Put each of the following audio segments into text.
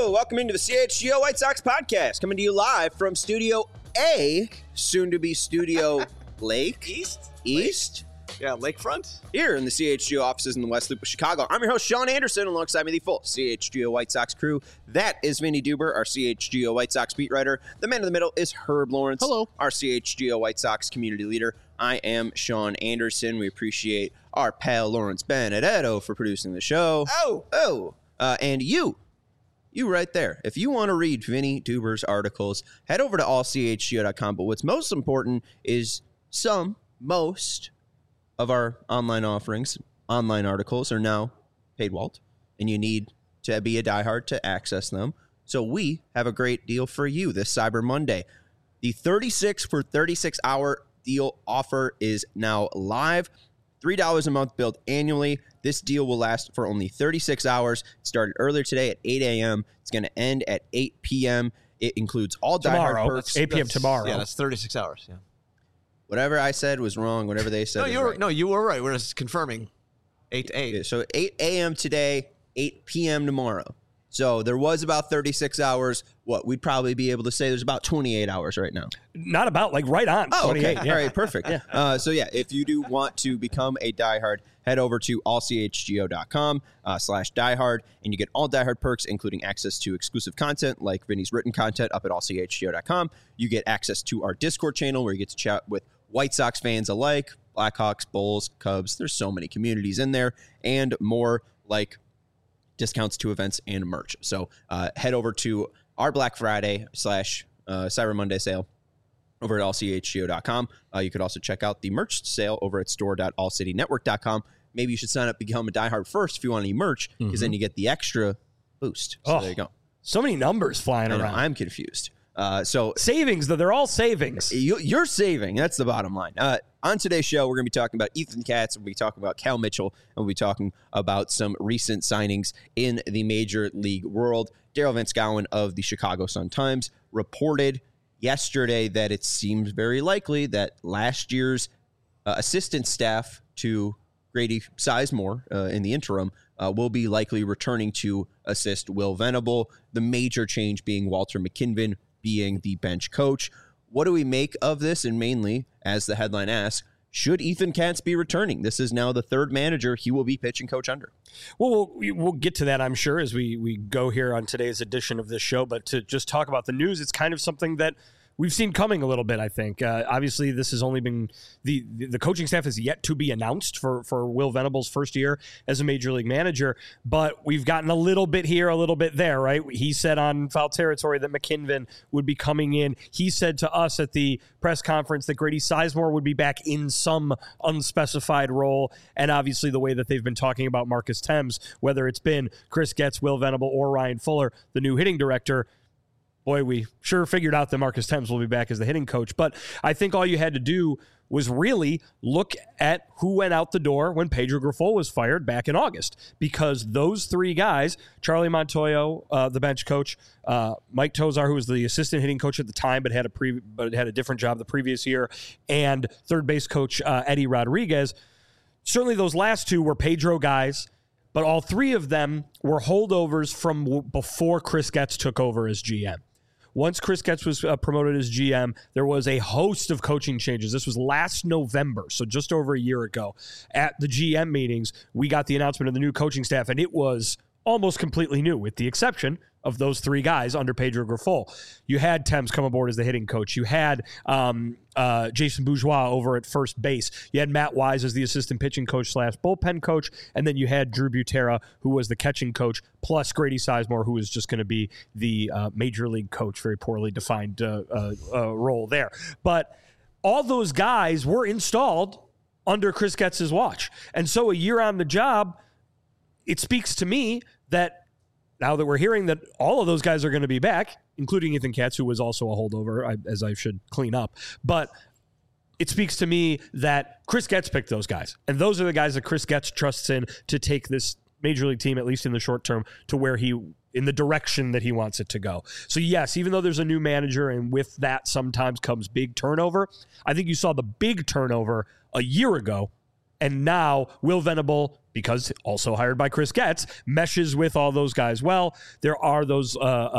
Welcome into the CHGO White Sox podcast, coming to you live from Studio A, soon to be Studio Lake. East? Yeah, Lakefront. Here in the CHGO offices in the West Loop of Chicago. I'm your host, Sean Anderson, alongside me the full CHGO White Sox crew. That is Vinny Duber, our CHGO White Sox beat writer. The man in the middle is Herb Lawrence. Hello. Our CHGO White Sox community leader. I am Sean Anderson. We appreciate our pal Lawrence Benedetto for producing the show. And you right there. If you want to read Vinny Duber's articles, head over to allchgo.com. But what's most important is most of our online offerings, online articles are now paywalled, and you need to be a diehard to access them. So we have a great deal for you this Cyber Monday. The 36 for 36 hour deal offer is now live. $3 a month billed annually. This deal will last for only 36 hours. It started earlier today at 8 a.m. It's going to end at 8 p.m. It includes all diehard perks. 8 p.m. tomorrow. Yeah, that's 36 hours. Yeah. Whatever I said was wrong. Whatever they said you were right. We're just confirming 8 to 8. So 8 a.m. today, 8 p.m. tomorrow. So there was about 36 hours. We'd probably be able to say there's about 28 hours right now. Not about, right on. Oh, 28. okay. Yeah. All right, perfect. If you do want to become a diehard, head over to allchgo.com/diehard, and you get all diehard perks, including access to exclusive content like Vinny's written content up at allchgo.com. You get access to our Discord channel where you get to chat with White Sox fans alike, Blackhawks, Bulls, Cubs. There's so many communities in there, and more like discounts to events and merch. So head over to our Black Friday / Cyber Monday sale over at allchgo.com. You could also check out the merch sale over at store.allcitynetwork.com. Maybe you should sign up to become a diehard first if you want any merch, because then you get the extra boost. So there you go. So many numbers flying around. I'm confused. Savings, though, they're all savings. You're saving. That's the bottom line. On today's show, we're going to be talking about Ethan Katz. We'll be talking about Cal Mitchell. And we'll be talking about some recent signings in the Major League world. Daryl Van Schouwen of the Chicago Sun-Times reported yesterday that it seems very likely that last year's assistant staff to Grady Sizemore in the interim will be likely returning to assist Will Venable. The major change being Walter McKinven being the bench coach. What do we make of this? And mainly, as the headline asks, should Ethan Katz be returning? This is now the third manager he will be pitching coach under. Well, we'll get to that, I'm sure, as we go here on today's edition of this show. But to just talk about the news, it's kind of something that we've seen coming a little bit, I think. Obviously, this has only been the coaching staff is yet to be announced for Will Venable's first year as a major league manager, but we've gotten a little bit here, a little bit there, right? He said on Foul Territory that McKinven would be coming in. He said to us at the press conference that Grady Sizemore would be back in some unspecified role, and obviously the way that they've been talking about Marcus Thames, whether it's been Chris Getz, Will Venable, or Ryan Fuller, the new hitting director. Boy, we sure figured out that Marcus Thames will be back as the hitting coach. But I think all you had to do was really look at who went out the door when Pedro Grifol was fired back in August. Because those three guys, Charlie Montoyo, the bench coach, Mike Tozar, who was the assistant hitting coach at the time but had a different job the previous year, and third base coach Eddie Rodriguez, certainly those last two were Pedro guys, but all three of them were holdovers from before Chris Getz took over as GM. Once Chris Getz was promoted as GM, there was a host of coaching changes. This was last November, so just over a year ago. At the GM meetings, we got the announcement of the new coaching staff, and it was almost completely new, with the exception of those three guys under Pedro Grifol. You had Thames come aboard as the hitting coach. You had Jason Bourgeois over at first base. You had Matt Wise as the assistant pitching coach / bullpen coach. And then you had Drew Butera, who was the catching coach, plus Grady Sizemore, who was just going to be the major league coach, very poorly defined role there. But all those guys were installed under Chris Getz's watch. And so a year on the job, it speaks to me that now that we're hearing that all of those guys are going to be back, including Ethan Katz, who was also a holdover, as I should clean up, but it speaks to me that Chris Getz picked those guys. And those are the guys that Chris Getz trusts in to take this major league team, at least in the short term, to where in the direction that he wants it to go. So yes, even though there's a new manager and with that sometimes comes big turnover, I think you saw the big turnover a year ago. And now Will Venable because also hired by Chris Getz, meshes with all those guys well. There are those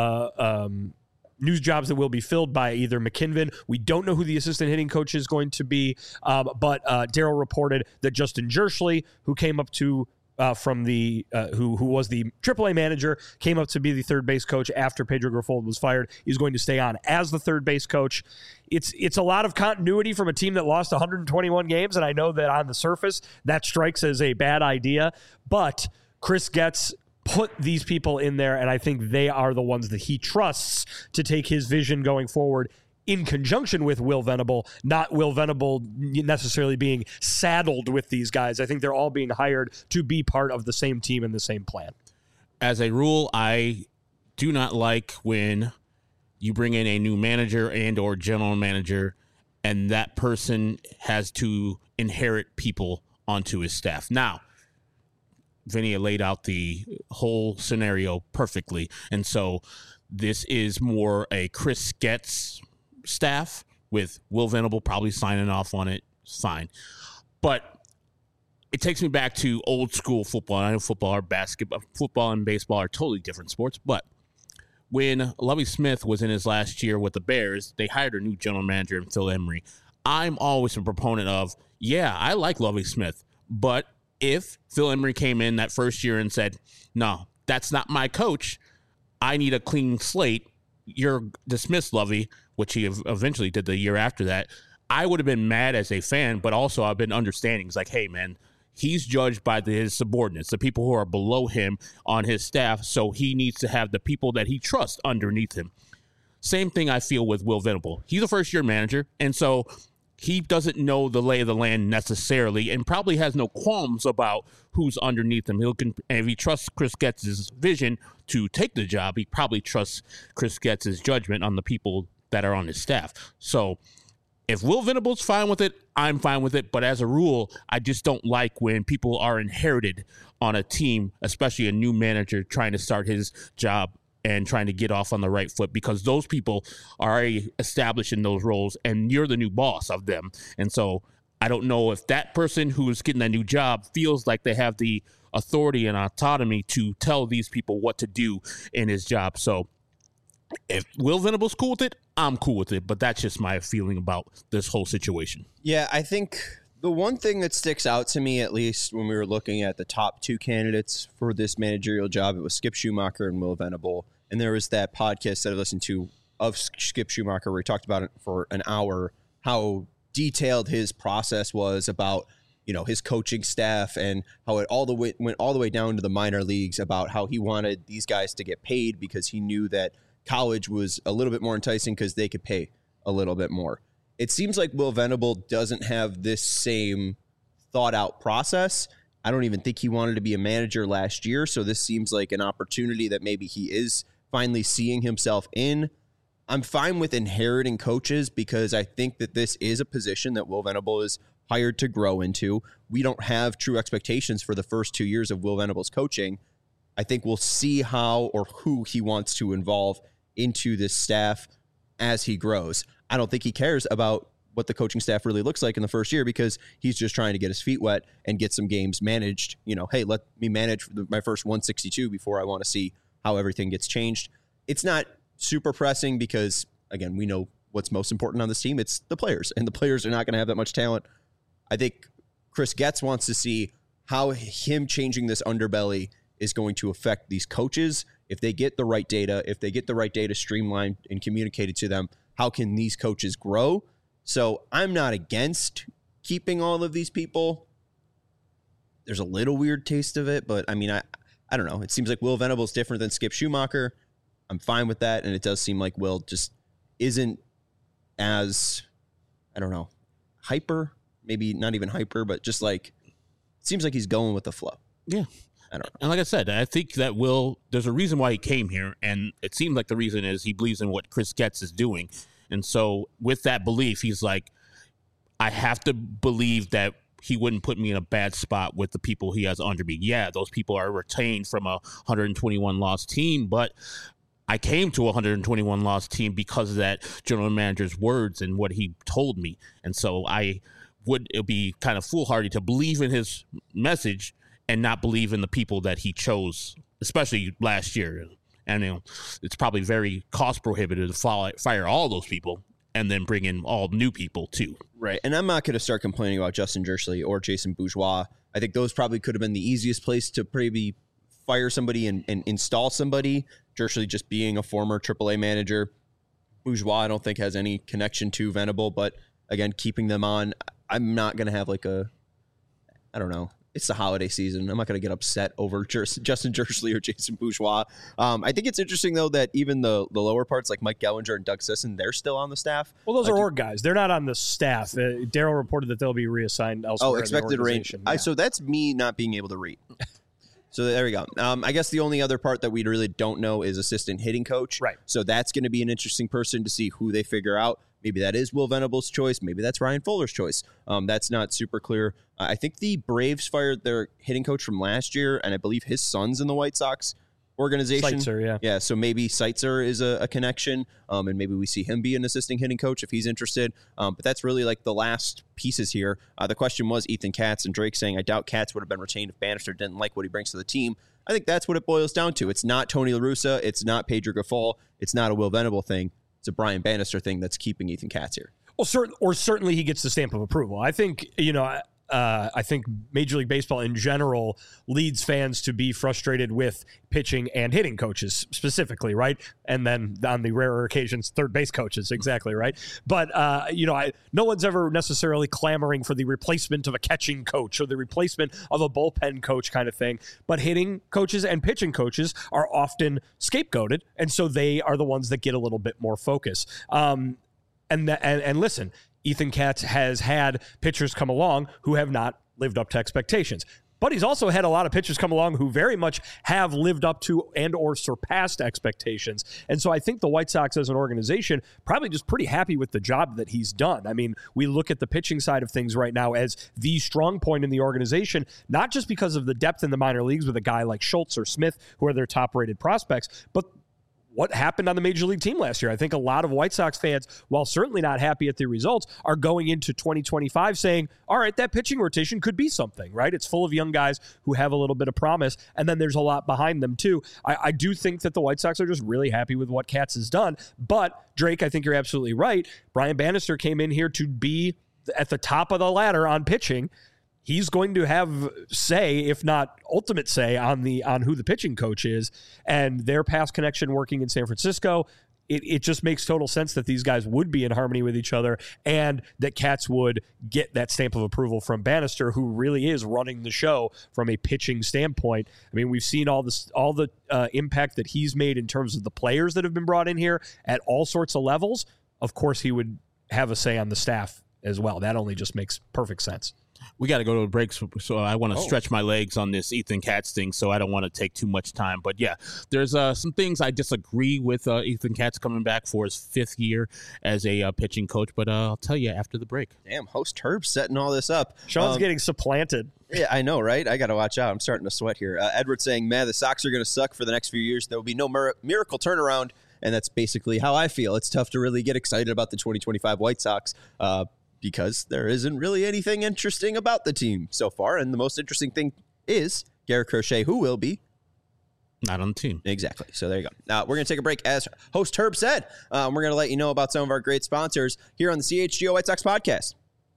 news jobs that will be filled by either McKinven. We don't know who the assistant hitting coach is going to be, but Daryl reported that Justin Jerschley, who came up to from the who was the AAA manager, came up to be the third base coach after Pedro Grifol was fired, is going to stay on as the third base coach. It's a lot of continuity from a team that lost 121 games, and I know that on the surface that strikes as a bad idea, but Chris Getz put these people in there, and I think they are the ones that he trusts to take his vision going forward in conjunction with Will Venable, not Will Venable necessarily being saddled with these guys. I think they're all being hired to be part of the same team and the same plan. As a rule, I do not like when you bring in a new manager and or general manager and that person has to inherit people onto his staff. Now, Vinny laid out the whole scenario perfectly, and so this is more a Chris Getz staff with Will Venable probably signing off on it. Fine. But it takes me back to old school football. I know football or basketball, football and baseball are totally different sports. But when Lovie Smith was in his last year with the Bears, they hired a new general manager in Phil Emery. I'm always a proponent of, yeah, I like Lovie Smith. But if Phil Emery came in that first year and said, no, that's not my coach, I need a clean slate, you're dismissed, Lovie, which he eventually did the year after that, I would have been mad as a fan, but also I've been understanding. It's like, hey, man, he's judged by his subordinates, the people who are below him on his staff, so he needs to have the people that he trusts underneath him. Same thing I feel with Will Venable. He's a first-year manager, and so he doesn't know the lay of the land necessarily and probably has no qualms about who's underneath him. And if he trusts Chris Getz's vision to take the job, he probably trusts Chris Getz's judgment on the people that are on his staff. So if Will Venable's fine with it, I'm fine with it. But as a rule, I just don't like when people are inherited on a team, especially a new manager trying to start his job and trying to get off on the right foot, because those people are already established in those roles and you're the new boss of them. And so I don't know if that person who's getting that new job feels like they have the authority and autonomy to tell these people what to do in his job. So if Will Venable's cool with it, I'm cool with it. But that's just my feeling about this whole situation. Yeah, I think the one thing that sticks out to me, at least when we were looking at the top two candidates for this managerial job, it was Skip Schumacher and Will Venable. And there was that podcast that I listened to of Skip Schumacher where he talked about it for an hour, how detailed his process was about, you know, his coaching staff and how it went all the way down to the minor leagues about how he wanted these guys to get paid because he knew that college was a little bit more enticing because they could pay a little bit more. It seems like Will Venable doesn't have this same thought out process. I don't even think he wanted to be a manager last year. So this seems like an opportunity that maybe he is finally seeing himself in. I'm fine with inheriting coaches because I think that this is a position that Will Venable is hired to grow into. We don't have true expectations for the first 2 years of Will Venable's coaching. I think we'll see how or who he wants to involve into this staff as he grows. I don't think he cares about what the coaching staff really looks like in the first year because he's just trying to get his feet wet and get some games managed. You know, hey, let me manage my first 162 before I want to see how everything gets changed. It's not super pressing because, again, we know what's most important on this team. It's the players, and the players are not going to have that much talent. I think Chris Getz wants to see how him changing this underbelly is going to affect these coaches. If they get the right data, streamlined and communicated to them, how can these coaches grow? So I'm not against keeping all of these people. There's a little weird taste of it, but I mean, I don't know. It seems like Will Venable is different than Skip Schumacher. I'm fine with that. And it does seem like Will just isn't as, I don't know, hyper, maybe not even hyper, but just like, it seems like he's going with the flow. Yeah. I don't know. And like I said, I think that there's a reason why he came here. And it seems like the reason is he believes in what Chris Getz is doing. And so with that belief, he's like, I have to believe that he wouldn't put me in a bad spot with the people he has under me. Yeah, those people are retained from a 121-loss team, but I came to a 121-loss team because of that general manager's words and what he told me. And so it would be kind of foolhardy to believe in his message and not believe in the people that he chose, especially last year. And it's probably very cost prohibitive to fire all those people and then bring in all new people too. Right. And I'm not going to start complaining about Justin Jersley or Jason Bourgeois. I think those probably could have been the easiest place to maybe fire somebody and install somebody. Jersley just being a former AAA manager. Bourgeois, I don't think has any connection to Venable, but again, keeping them on, I'm not going to have I don't know. It's the holiday season. I'm not going to get upset over Justin Jersley or Jason Bourgeois. I think it's interesting, though, that even the lower parts like Mike Gellinger and Doug Sisson, they're still on the staff. Well, those are org guys. They're not on the staff. Daryl reported that they'll be reassigned elsewhere. Oh, expected range. Yeah. So that's me not being able to read. So there we go. I guess the only other part that we really don't know is assistant hitting coach. Right. So that's going to be an interesting person to see who they figure out. Maybe that is Will Venable's choice. Maybe that's Ryan Fuller's choice. That's not super clear. I think the Braves fired their hitting coach from last year, and I believe his son's in the White Sox organization. Seitzer, yeah. Yeah, so maybe Seitzer is a connection, and maybe we see him be an assisting hitting coach if he's interested. But that's really like the last pieces here. The question was Ethan Katz, and Drake saying, I doubt Katz would have been retained if Bannister didn't like what he brings to the team. I think that's what it boils down to. It's not Tony La Russa. It's not Pedro Gaffol. It's not a Will Venable thing. It's a Brian Bannister thing that's keeping Ethan Katz here. Well, certainly he gets the stamp of approval. I think, I think Major League Baseball in general leads fans to be frustrated with pitching and hitting coaches specifically, right? And then on the rarer occasions, third base coaches, exactly, right? But, no one's ever necessarily clamoring for the replacement of a catching coach or the replacement of a bullpen coach kind of thing. But hitting coaches and pitching coaches are often scapegoated, and so they are the ones that get a little bit more focus. And listen, Ethan Katz has had pitchers come along who have not lived up to expectations. But he's also had a lot of pitchers come along who very much have lived up to and or surpassed expectations. And so I think the White Sox as an organization probably just pretty happy with the job that he's done. I mean, we look at the pitching side of things right now as the strong point in the organization, not just because of the depth in the minor leagues with a guy like Schultz or Smith, who are their top-rated prospects, but what happened on the Major League team last year. I think a lot of White Sox fans, while certainly not happy at the results, are going into 2025 saying, all right, that pitching rotation could be something, right? It's full of young guys who have a little bit of promise, and then there's a lot behind them too. I do think that the White Sox are just really happy with what Katz has done. But, Drake, I think you're absolutely right. Brian Bannister came in here to be at the top of the ladder on pitching. He's going to have say, if not ultimate say, on who the pitching coach is, and their past connection working in San Francisco. It just makes total sense that these guys would be in harmony with each other, and that Katz would get that stamp of approval from Bannister, who really is running the show from a pitching standpoint. I mean, we've seen all the impact that he's made in terms of the players that have been brought in here at all sorts of levels. Of course, he would have a say on the staff as well. That only just makes perfect sense. We got to go to a break, so I want to stretch my legs on this Ethan Katz thing, so I don't want to take too much time. But, yeah, there's some things I disagree with Ethan Katz coming back for his fifth year as a pitching coach, but I'll tell you after the break. Damn, host Herb setting all this up. Sean's getting supplanted. Yeah, I know, right? I got to watch out. I'm starting to sweat here. Edward saying, man, the Sox are going to suck for the next few years. There will be no miracle turnaround, and that's basically how I feel. It's tough to really get excited about the 2025 White Sox because there isn't really anything interesting about the team so far. And the most interesting thing is Garrett Crochet, who will be not on the team. Exactly. So there you go. We're going to take a break. As host Herb said, we're going to let you know about some of our great sponsors here on the CHGO White Sox podcast.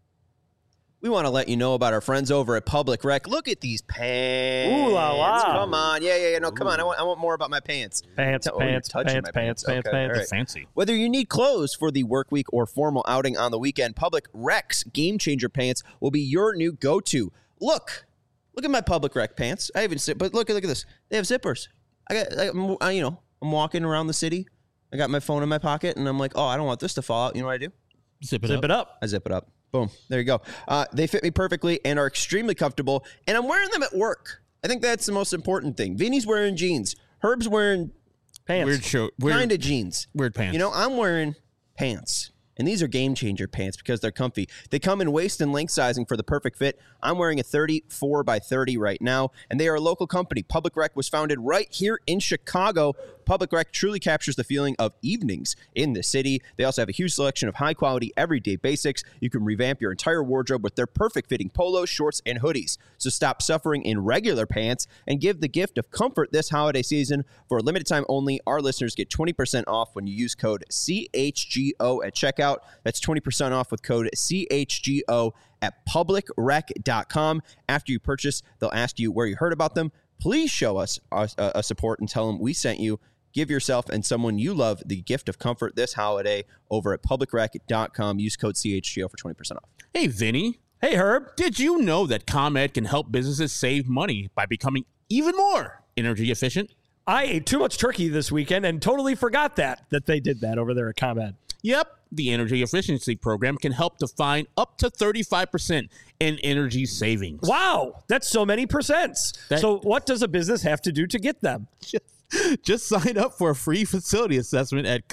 We want to let you know about our friends over at Public Rec. Look at these pants. Ooh la la. Come on. Yeah. No, come on. I want more about my pants. Pants. Right. Fancy. Whether you need clothes for the work week or formal outing on the weekend, Public Rec's Game Changer pants will be your new go-to. Look at my Public Rec pants. I haven't seen, but look at this. They have zippers. I'm walking around the city. I got my phone in my pocket, and I'm like, oh, I don't want this to fall out. You know what I do? Zip it up. I zip it up. Boom. There you go. They fit me perfectly and are extremely comfortable, and I'm wearing them at work. I think that's the most important thing. Vinny's wearing jeans. Herb's wearing pants. Kind of jeans. Weird pants. You know, I'm wearing pants. And these are Game Changer pants because they're comfy. They come in waist and length sizing for the perfect fit. I'm wearing a 34 by 30 right now, and they are a local company. Public Rec was founded right here in Chicago Public Rec truly captures the feeling of evenings in the city. They also have a huge selection of high-quality, everyday basics. You can revamp your entire wardrobe with their perfect-fitting polos, shorts, and hoodies. So stop suffering in regular pants and give the gift of comfort this holiday season. For a limited time only, our listeners get 20% off when you use code CHGO at checkout. That's 20% off with code CHGO at publicrec.com. After you purchase, they'll ask you where you heard about them. Please show us a support and tell them we sent you. Give yourself and someone you love the gift of comfort this holiday over at publicrec.com. Use code CHGO for 20% off. Hey, Vinny. Hey, Herb. Did you know that ComEd can help businesses save money by becoming even more energy efficient? I ate too much turkey this weekend and totally forgot that they did that over there at ComEd. Yep. The energy efficiency program can help to find up to 35% in energy savings. Wow, that's so many percents. So what does a business have to do to get them? Just sign up for a free facility assessment at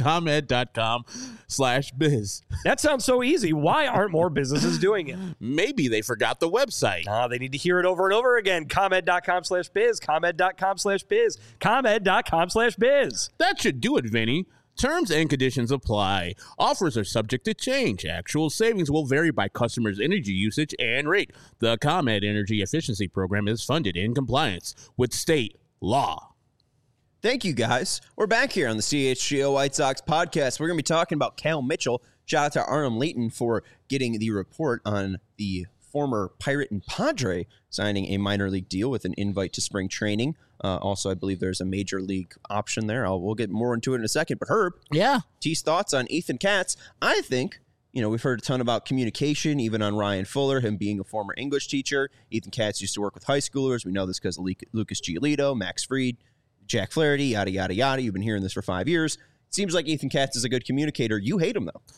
ComEd.com/biz. That sounds so easy. Why aren't more businesses doing it? Maybe they forgot the website. They need to hear it over and over again. ComEd.com/biz, ComEd.com/biz, ComEd.com/biz. That should do it, Vinny. Terms and conditions apply. Offers are subject to change. Actual savings will vary by customers' energy usage and rate. The ComEd Energy Efficiency Program is funded in compliance with state law. Thank you, guys. We're back here on the CHGO White Sox podcast. We're going to be talking about Cal Mitchell. Shout out to Arnold Layton for getting the report on the former Pirate and Padre signing a minor league deal with an invite to spring training. Also, I believe there's a major league option there. We'll get more into it in a second. But Herb, T's thoughts on Ethan Katz. I think, we've heard a ton about communication, even on Ryan Fuller, him being a former English teacher. Ethan Katz used to work with high schoolers. We know this because of Lucas Giolito, Max Fried, Jack Flaherty, yada, yada, yada. You've been hearing this for 5 years. It seems like Ethan Katz is a good communicator. You hate him, though.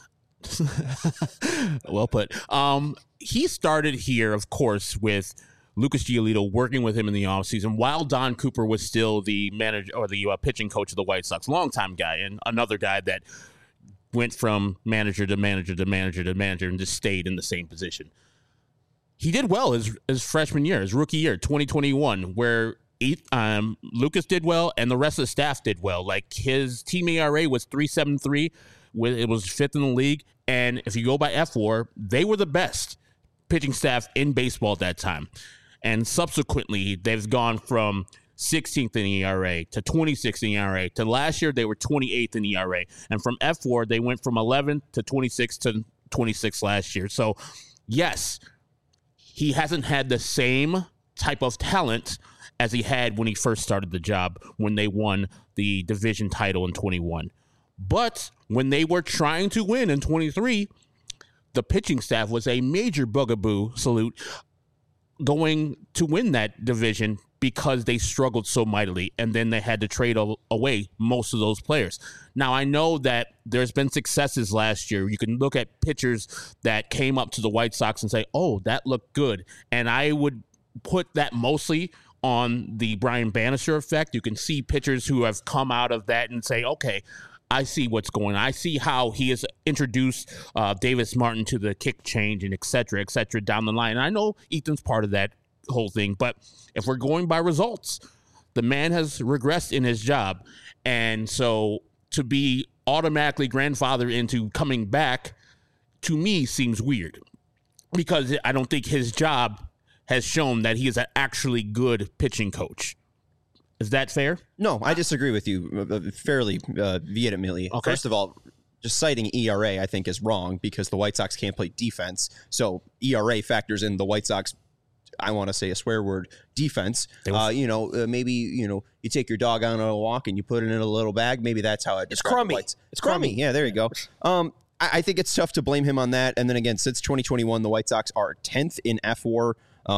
Well put. He started here, of course, with Lucas Giolito working with him in the offseason while Don Cooper was still the manager or the pitching coach of the White Sox. Longtime guy and another guy that went from manager to manager to manager to manager and just stayed in the same position. He did well his freshman year, his rookie year, 2021, where Lucas did well and the rest of the staff did well. Like his team ERA was 3.73. It was fifth in the league. And if you go by FWAR, they were the best pitching staff in baseball at that time. And subsequently, they've gone from 16th in ERA to 26th in ERA to last year, they were 28th in ERA. And from FWAR, they went from 11th to 26th to 26th last year. So, yes, he hasn't had the same type of talent as he had when he first started the job, when they won the division title in 21. But when they were trying to win in 23, the pitching staff was a major bugaboo salute going to win that division because they struggled so mightily, and then they had to trade away most of those players. Now, I know that there's been successes last year. You can look at pitchers that came up to the White Sox and say, oh, that looked good. And I would put that mostly on the Brian Bannister effect. You can see pitchers who have come out of that and say, okay, I see what's going on. I see how he has introduced Davis Martin to the kick change and et cetera down the line. And I know Ethan's part of that whole thing, but if we're going by results, the man has regressed in his job. And so to be automatically grandfathered into coming back, to me, seems weird because I don't think his job has shown that he is an actually good pitching coach. Is that fair? No, I disagree with you fairly vehemently. Okay. First of all, just citing ERA, I think, is wrong because the White Sox can't play defense. So ERA factors in the White Sox, I want to say a swear word, defense. Maybe, you take your dog out on a walk and you put it in a little bag. Maybe that's how it's crummy. It's crummy. Yeah, there you go. I think it's tough to blame him on that. And then again, since 2021, the White Sox are 10th in FWAR.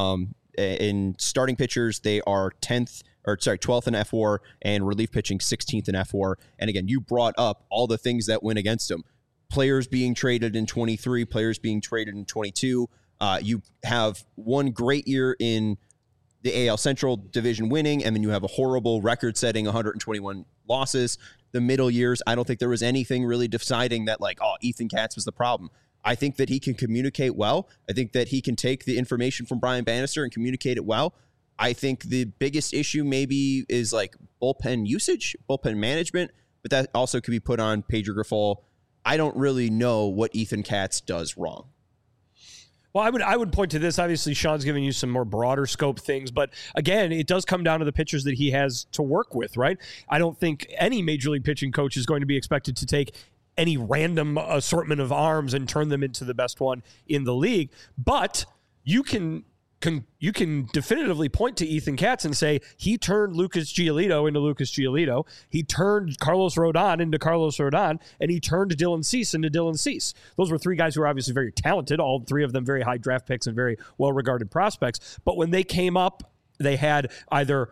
In starting pitchers, they are 12th in FWAR, and relief pitching 16th in FWAR. And again, you brought up all the things that went against him. Players being traded in 23, players being traded in 22. You have one great year in the AL Central division winning, and then you have a horrible record-setting 121 losses. The middle years, I don't think there was anything really deciding that, Ethan Katz was the problem. I think that he can communicate well. I think that he can take the information from Brian Bannister and communicate it well. I think the biggest issue maybe is bullpen usage, bullpen management, but that also could be put on Pedro Grifol. I don't really know what Ethan Katz does wrong. Well, I would point to this. Obviously, Sean's giving you some more broader scope things, but again, it does come down to the pitchers that he has to work with, right? I don't think any major league pitching coach is going to be expected to take any random assortment of arms and turn them into the best one in the league, but you can definitively point to Ethan Katz and say he turned Lucas Giolito into Lucas Giolito. He turned Carlos Rodon into Carlos Rodon, and he turned Dylan Cease into Dylan Cease. Those were three guys who were obviously very talented, all three of them very high draft picks and very well-regarded prospects. But when they came up, they had either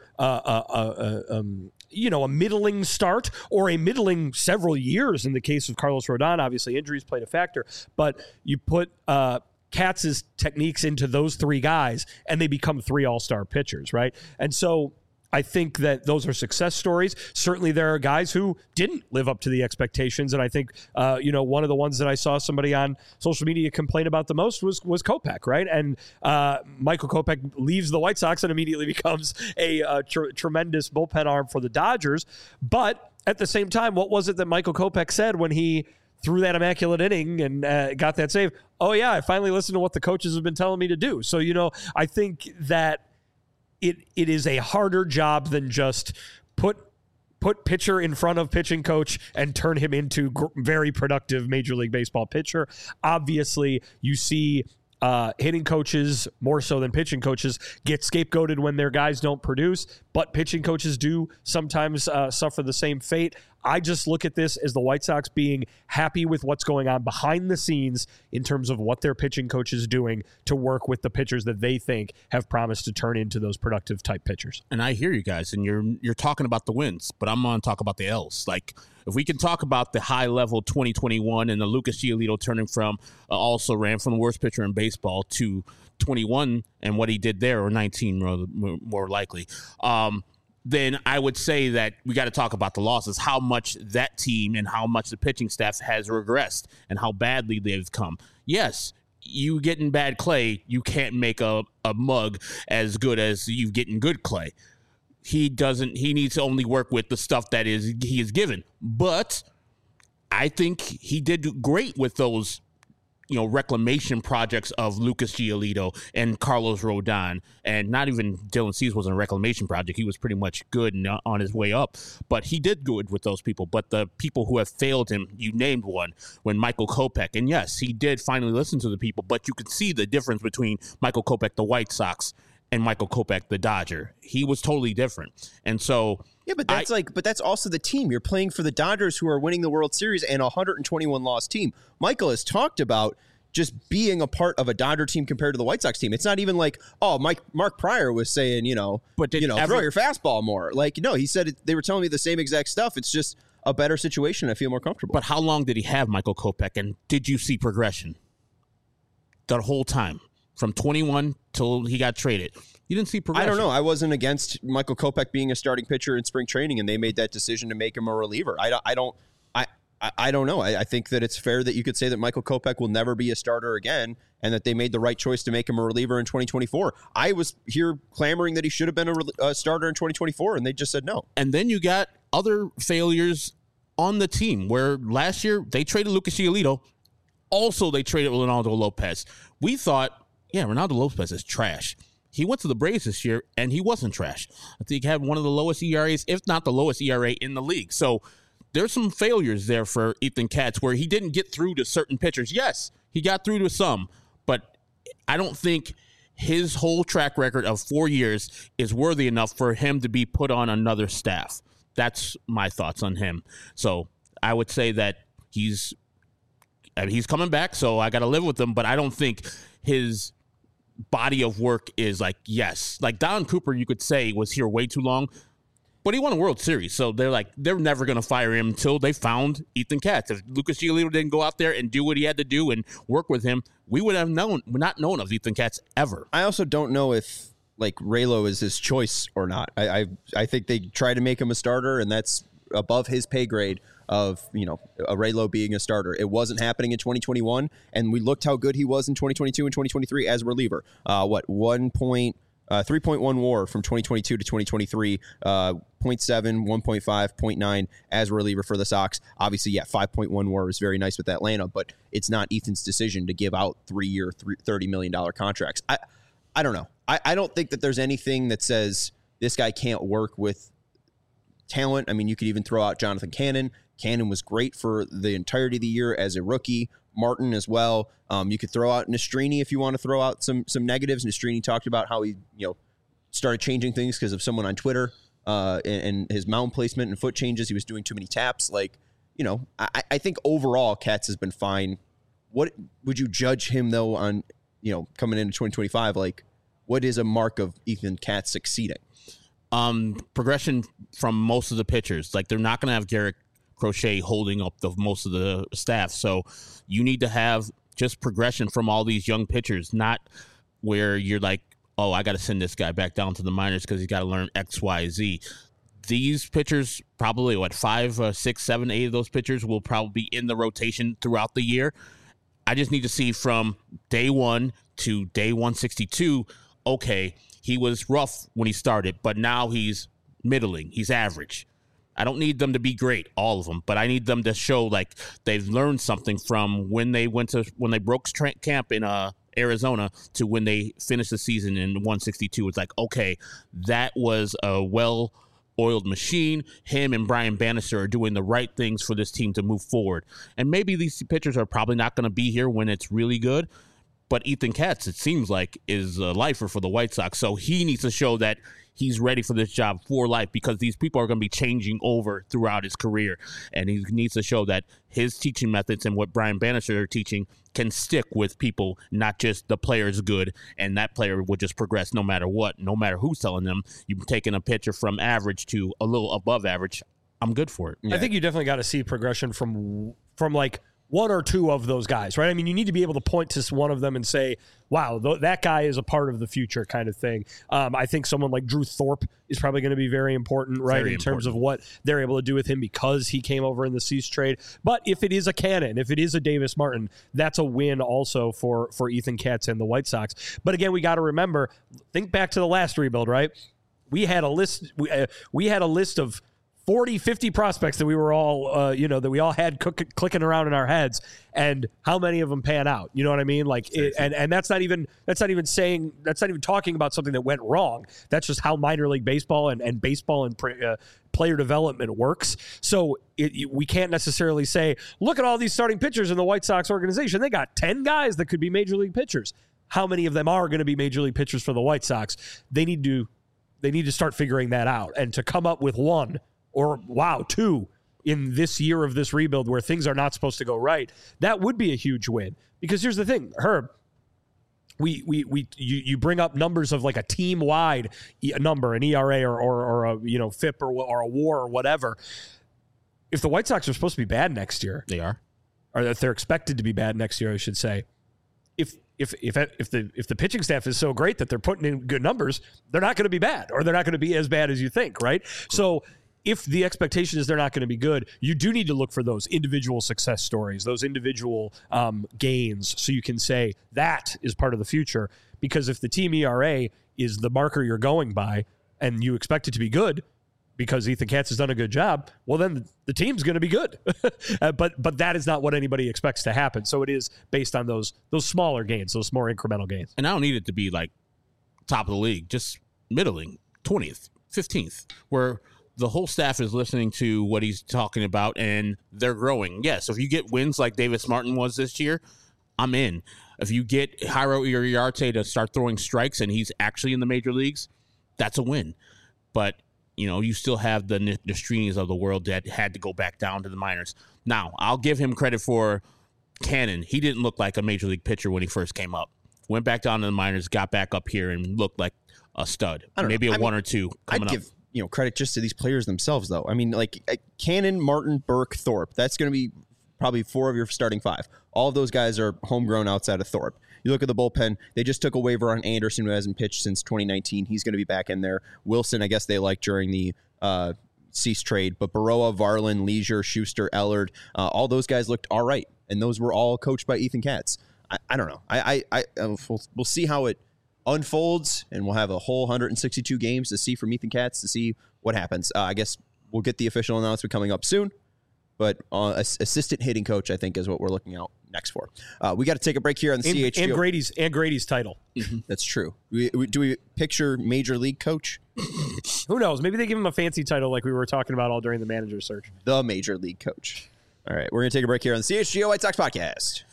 a middling start or a middling several years. In the case of Carlos Rodon, obviously injuries played a factor, but you put Katz's techniques into those three guys, and they become three all-star pitchers, right? And so I think that those are success stories. Certainly there are guys who didn't live up to the expectations, and I think, one of the ones that I saw somebody on social media complain about the most was Kopech, right? And Michael Kopech leaves the White Sox and immediately becomes a tremendous bullpen arm for the Dodgers. But at the same time, what was it that Michael Kopech said when he threw that immaculate inning and got that save? Oh, yeah, I finally listened to what the coaches have been telling me to do. So, I think that it is a harder job than just put pitcher in front of pitching coach and turn him into very productive Major League Baseball pitcher. Obviously, you see hitting coaches, more so than pitching coaches, get scapegoated when their guys don't produce, but pitching coaches do sometimes suffer the same fate. I just look at this as the White Sox being happy with what's going on behind the scenes in terms of what their pitching coach is doing to work with the pitchers that they think have promised to turn into those productive type pitchers. And I hear you guys, and you're talking about the wins, but I'm going to talk about the L's. Like, if we can talk about the high level 2021 and the Lucas Giolito turning from also ran from the worst pitcher in baseball to 21 and what he did there, or 19 more likely, then I would say that we got to talk about the losses, how much that team and how much the pitching staff has regressed and how badly they've come. Yes, you getting bad Clay, you can't make a mug as good as you getting good Clay. He needs to only work with the stuff that he is given. But I think he did great with those, reclamation projects of Lucas Giolito and Carlos Rodon, and not even Dylan Cease wasn't a reclamation project. He was pretty much good and on his way up, but he did good with those people. But the people who have failed him, you named one, when Michael Kopech, and yes, he did finally listen to the people, but you could see the difference between Michael Kopech, the White Sox, and Michael Kopech, the Dodger. He was totally different. And so yeah, but that's also the team. You're playing for the Dodgers, who are winning the World Series and a 121 loss team. Michael has talked about just being a part of a Dodger team compared to the White Sox team. It's not even like, Mark Pryor was saying, throw your fastball more. Like, no, he said they were telling me the same exact stuff. It's just a better situation. I feel more comfortable. But how long did he have Michael Kopech, and did you see progression the whole time from 21 till he got traded? You didn't see progression. I don't know. I wasn't against Michael Kopech being a starting pitcher in spring training, and they made that decision to make him a reliever. I don't know. I think that it's fair that you could say that Michael Kopech will never be a starter again, and that they made the right choice to make him a reliever in 2024. I was here clamoring that he should have been a starter in 2024, and they just said no. And then you got other failures on the team, where last year they traded Lucas Giolito. Also, they traded Ronaldo Lopez. We thought, Ronaldo Lopez is trash. He went to the Braves this year, and he wasn't trash. I think he had one of the lowest ERAs, if not the lowest ERA in the league. So there's some failures there for Ethan Katz, where he didn't get through to certain pitchers. Yes, he got through to some, but I don't think his whole track record of 4 years is worthy enough for him to be put on another staff. That's my thoughts on him. So I would say that he's coming back, so I got to live with him, but I don't think his body of work is like Don Cooper, you could say, was here way too long, but he won a World Series, so they're never going to fire him until they found Ethan Katz. If Lucas Giolito didn't go out there and do what he had to do and work with him, we would have not known of Ethan Katz ever. I also don't know if Raylo is his choice or not. I think they try to make him a starter, and that's above his pay grade of, a Raylo being a starter. It wasn't happening in 2021, and we looked how good he was in 2022 and 2023 as a reliever. 1.2 3.1 WAR from 2022 to 2023. 0.7, 1.5, 0.9 as a reliever for the Sox. Obviously, 5.1 WAR is very nice with Atlanta, but it's not Ethan's decision to give out 3-year, $30 million contracts. I don't know. I don't think that there's anything that says this guy can't work with talent. I mean, you could even throw out Jonathan Cannon. Cannon was great for the entirety of the year as a rookie. Martin as well. You could throw out Nastrini if you want to throw out some negatives. Nastrini talked about how he started changing things because of someone on Twitter and his mound placement and foot changes. He was doing too many taps. I think overall Katz has been fine. What would you judge him though on coming into 2025? Like, what is a mark of Ethan Katz succeeding? Progression from most of the pitchers. Like, they're not going to have Garrett Crochet holding up most of the staff. So you need to have just progression from all these young pitchers, not where you're like, oh, I got to send this guy back down to the minors because he's got to learn X, Y, Z. These pitchers, probably 5, 6, 7, 8 of those pitchers will probably be in the rotation throughout the year. I just need to see from day 1 to day 162, okay, he was rough when he started, but now he's middling. He's average. I don't need them to be great, all of them, but I need them to show like they've learned something from when they broke camp in Arizona to when they finished the season in 162. It's like, okay, that was a well-oiled machine. Him and Brian Bannister are doing the right things for this team to move forward. And maybe these pitchers are probably not going to be here when it's really good, but Ethan Katz, it seems like, is a lifer for the White Sox. So he needs to show that he's ready for this job for life because these people are going to be changing over throughout his career. And he needs to show that his teaching methods and what Brian Bannister are teaching can stick with people, not just the player's good, and that player will just progress no matter what, no matter who's telling them. You've taken a pitcher from average to a little above average. I'm good for it. Yeah. I think you definitely got to see progression from like one or two of those guys, right? I mean, you need to be able to point to one of them and say, wow, that guy is a part of the future kind of thing. I think someone like Drew Thorpe is probably going to be very important, right, in terms of what they're able to do with him because he came over in the Cease trade. But if it is a Cannon, if it is a Davis Martin, that's a win also for Ethan Katz and the White Sox. But again, we got to remember, think back to the last rebuild, right? We had a list. We had a list of 40, 50 prospects that we were all, that we all had clicking around in our heads, and how many of them pan out? You know what I mean? Like, and that's not even talking about something that went wrong. That's just how minor league baseball and baseball and player development works. So we can't necessarily say, look at all these starting pitchers in the White Sox organization. They got 10 guys that could be major league pitchers. How many of them are going to be major league pitchers for the White Sox? They need to start figuring that out, and to come up with one or two in this year of this rebuild where things are not supposed to go right, that would be a huge win. Because here's the thing, Herb, you bring up numbers of like a team-wide number, an ERA or a FIP or a WAR or whatever. If the White Sox are supposed to be bad next year, they are, or if they're expected to be bad next year, I should say. If the pitching staff is so great that they're putting in good numbers, they're not going to be bad, or they're not going to be as bad as you think, right? So if the expectation is they're not going to be good, you do need to look for those individual success stories, those individual gains, so you can say that is part of the future. Because if the team ERA is the marker you're going by and you expect it to be good because Ethan Katz has done a good job, well, then the team's going to be good. But that is not what anybody expects to happen. So it is based on those smaller gains, those more incremental gains. And I don't need it to be like top of the league, just middling, 20th, 15th, where the whole staff is listening to what he's talking about and they're growing. Yes, if you get wins like Davis Martin was this year, I'm in. If you get Jairo Iriarte to start throwing strikes and he's actually in the major leagues, that's a win. But, you still have the Nastrinis of the world that had to go back down to the minors. Now, I'll give him credit for Cannon. He didn't look like a major league pitcher when he first came up. Went back down to the minors, got back up here, and looked like a stud. Maybe a one or two coming up. Credit just to these players themselves, though. I mean, like Cannon, Martin, Burke, Thorpe. That's going to be probably 4 of your starting 5. All of those guys are homegrown outside of Thorpe. You look at the bullpen, they just took a waiver on Anderson, who hasn't pitched since 2019. He's going to be back in there. Wilson, I guess they liked during the Cease trade. But Baroa, Varlin, Leisure, Schuster, Ellard, all those guys looked all right. And those were all coached by Ethan Katz. I don't know. We'll see how it unfolds, and we'll have a whole 162 games to see from Ethan Katz to see what happens. I guess we'll get the official announcement coming up soon, but assistant hitting coach, I think, is what we're looking out next for. We got to take a break here on the CHGO. And Grady's title. That's true. Do we picture major league coach? Who knows? Maybe they give him a fancy title like we were talking about all during the manager search. The major league coach. All right, we're going to take a break here on the CHGO White Sox podcast.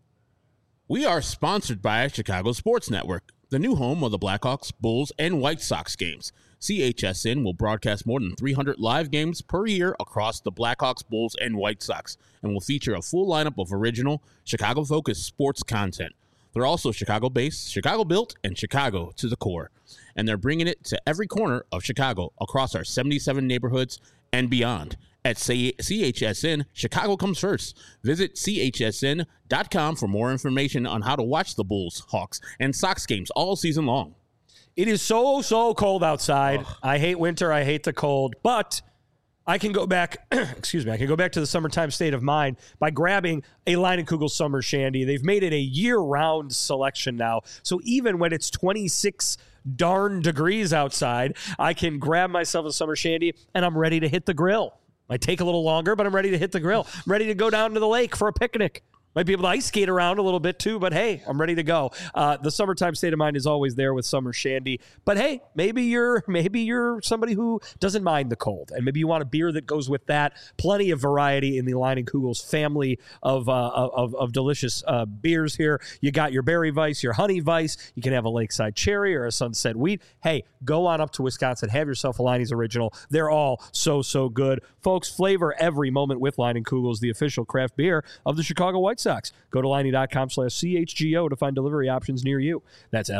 We are sponsored by Chicago Sports Network, the new home of the Blackhawks, Bulls, and White Sox games. CHSN will broadcast more than 300 live games per year across the Blackhawks, Bulls, and White Sox, and will feature a full lineup of original, Chicago-focused sports content. They're also Chicago-based, Chicago-built, and Chicago to the core. And they're bringing it to every corner of Chicago across our 77 neighborhoods and beyond. At CHSN, Chicago comes first. Visit chsn.com for more information on how to watch the Bulls, Hawks, and Sox games all season long. It is so cold outside. I hate winter. I hate the cold. But I can go back, excuse me, I can go back to the summertime state of mind by grabbing a Leinenkugel Summer Shandy. They've made it a year-round selection now. So even when it's 26 darn degrees outside, I can grab myself a Summer Shandy and I'm ready to hit the grill. Might take a little longer, but I'm ready to hit the grill. I'm ready to go down to the lake for a picnic. Might be able to ice skate around a little bit too, but hey, I'm ready to go. The summertime state of mind is always there with Summer Shandy. But hey, maybe you're somebody who doesn't mind the cold, and maybe you want a beer that goes with that. Plenty of variety in the Leinenkugel's family of delicious beers here. You got your Berry Weiss, your Honey Weiss. You can have a Lakeside Cherry or a Sunset Wheat. Hey, go on up to Wisconsin. Have yourself a Leine's Original. They're all so good. Folks, flavor every moment with Leinenkugel's, the official craft beer of the Chicago White Sox. Go to Leine.com/CHGO to find delivery options near you. That's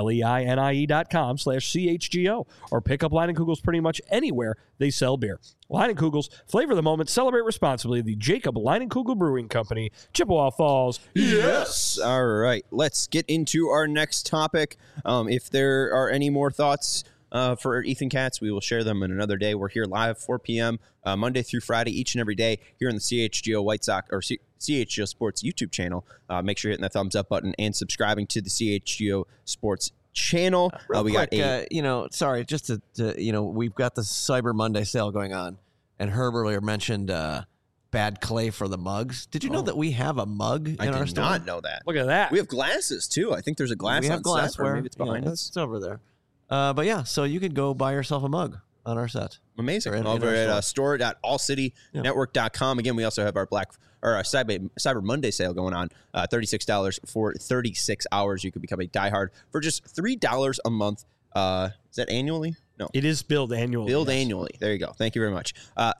LEINIE.com/CHGO. Or pick up Leinenkugel's pretty much anywhere they sell beer. Leinenkugel's, flavor the moment, celebrate responsibly. The Jacob Leinenkugel Brewing Company, Chippewa Falls. Yes. All right, let's get into our next topic. If there are any more thoughts for Ethan Katz, we will share them in another day. We're here live 4 p.m. Monday through Friday, each and every day here on the CHGO White Sox or CHGO Sports YouTube channel. Make sure you're hitting that thumbs up button and subscribing to the CHGO Sports channel. We got just to we've got the Cyber Monday sale going on, and Herb earlier mentioned bad clay for the mugs. Did you know that we have a mug in our store? I did not know that. Look at that. We have glasses too. I think there's a glass. We have on glassware. set, or maybe it's behind us. It's over there. But yeah, so you could go buy yourself a mug on our set. Amazing. Over at store.allcitynetwork.com. Again, we also have our Cyber Monday sale going on. $36 for 36 hours. You could become a diehard for just $3 a month. Is that annually? No. It is billed annually. Annually. There you go. Thank you very much.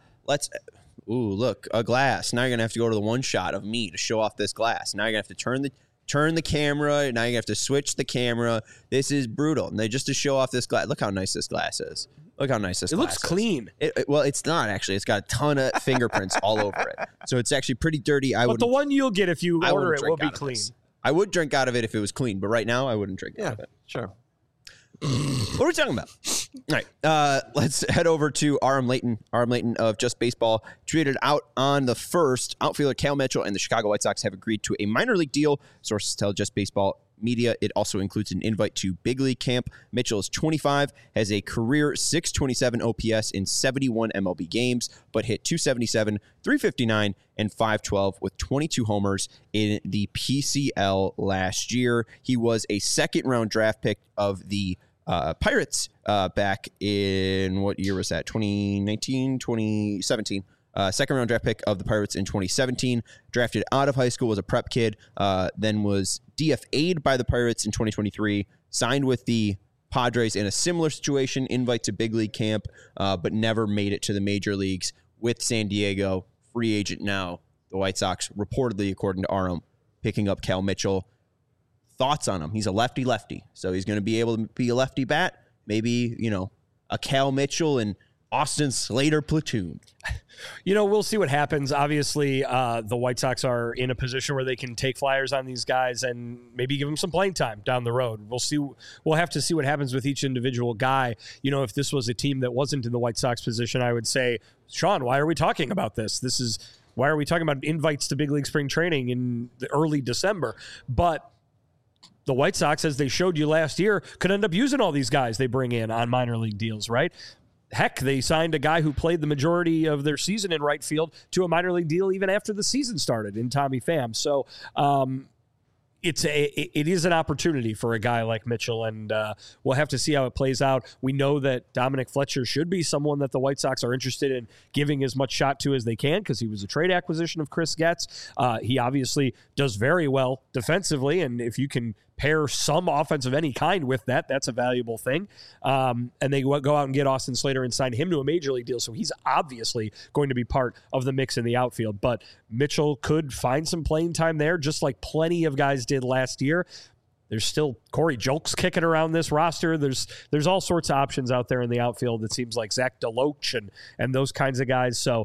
Look, a glass. Now you're going to have to go to the one shot of me to show off this glass. Now you're going to have to turn the camera. Now you have to switch the camera. This is brutal. And just to show off this glass. Look how nice this glass is. Look how nice this glass is. It looks clean. Well, it's not actually. It's got a ton of fingerprints all over it. So it's actually pretty dirty. But the one you'll get if you order it will be clean. I would drink out of it if it was clean, but right now I wouldn't drink out of it. Sure. What are we talking about? All right, let's head over to Aram Layton. Aram Layton of Just Baseball tweeted out on the 1st, outfielder Cal Mitchell and the Chicago White Sox have agreed to a minor league deal. Sources tell Just Baseball Media it also includes an invite to big league camp. Mitchell is 25, has a career .627 OPS in 71 MLB games, but hit .277, .359, and .512 with 22 homers in the PCL last year. He was a second-round draft pick of the Pirates back in, what year was that? 2019, 2017. Second-round draft pick of the Pirates in 2017. Drafted out of high school, was a prep kid, then was DFA'd by the Pirates in 2023. Signed with the Padres in a similar situation, invite to big league camp, but never made it to the major leagues with San Diego. Free agent now. The White Sox, reportedly, according to Aram, picking up Cal Mitchell. Thoughts on him? He's a lefty-lefty, so he's going to be able to be a lefty bat. Maybe, a Cal Mitchell and Austin Slater platoon. We'll see what happens. Obviously, the White Sox are in a position where they can take flyers on these guys and maybe give them some playing time down the road. We'll see. We'll have to see what happens with each individual guy. If this was a team that wasn't in the White Sox position, I would say, Sean, why are we talking about this? Why are we talking about invites to big league spring training in the early December? But the White Sox, as they showed you last year, could end up using all these guys they bring in on minor league deals, right? Heck, they signed a guy who played the majority of their season in right field to a minor league deal even after the season started in Tommy Pham. So it is an opportunity for a guy like Mitchell, and we'll have to see how it plays out. We know that Dominic Fletcher should be someone that the White Sox are interested in giving as much shot to as they can because he was a trade acquisition of Chris Getz. He obviously does very well defensively, and if you can pair some offense of any kind with that, that's a valuable thing. And they go out and get Austin Slater and sign him to a major league deal. So he's obviously going to be part of the mix in the outfield. But Mitchell could find some playing time there, just like plenty of guys did last year. There's still Corey Julks kicking around this roster. There's all sorts of options out there in the outfield. It seems like Zach DeLoach and those kinds of guys. So,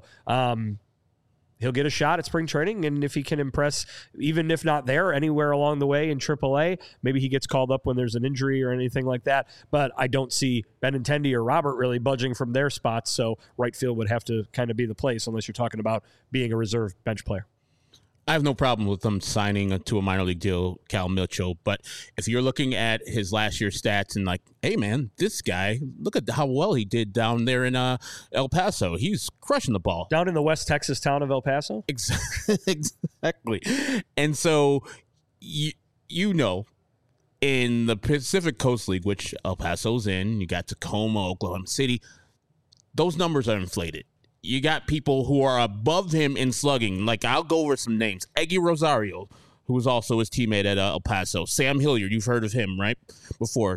he'll get a shot at spring training, and if he can impress, even if not there, anywhere along the way in AAA, maybe he gets called up when there's an injury or anything like that. But I don't see Benintendi or Robert really budging from their spots, so right field would have to kind of be the place unless you're talking about being a reserve bench player. I have no problem with them signing to a minor league deal, Cal Mitchell. But if you're looking at his last year's stats and like, hey, man, this guy, look at how well he did down there in El Paso. He's crushing the ball. Down in the West Texas town of El Paso? Exactly. And so, you know, in the Pacific Coast League, which El Paso's in, you got Tacoma, Oklahoma City, those numbers are inflated. You got people who are above him in slugging. Like, I'll go over some names. Eggy Rosario, who was also his teammate at El Paso. Sam Hilliard, you've heard of him, right? Before.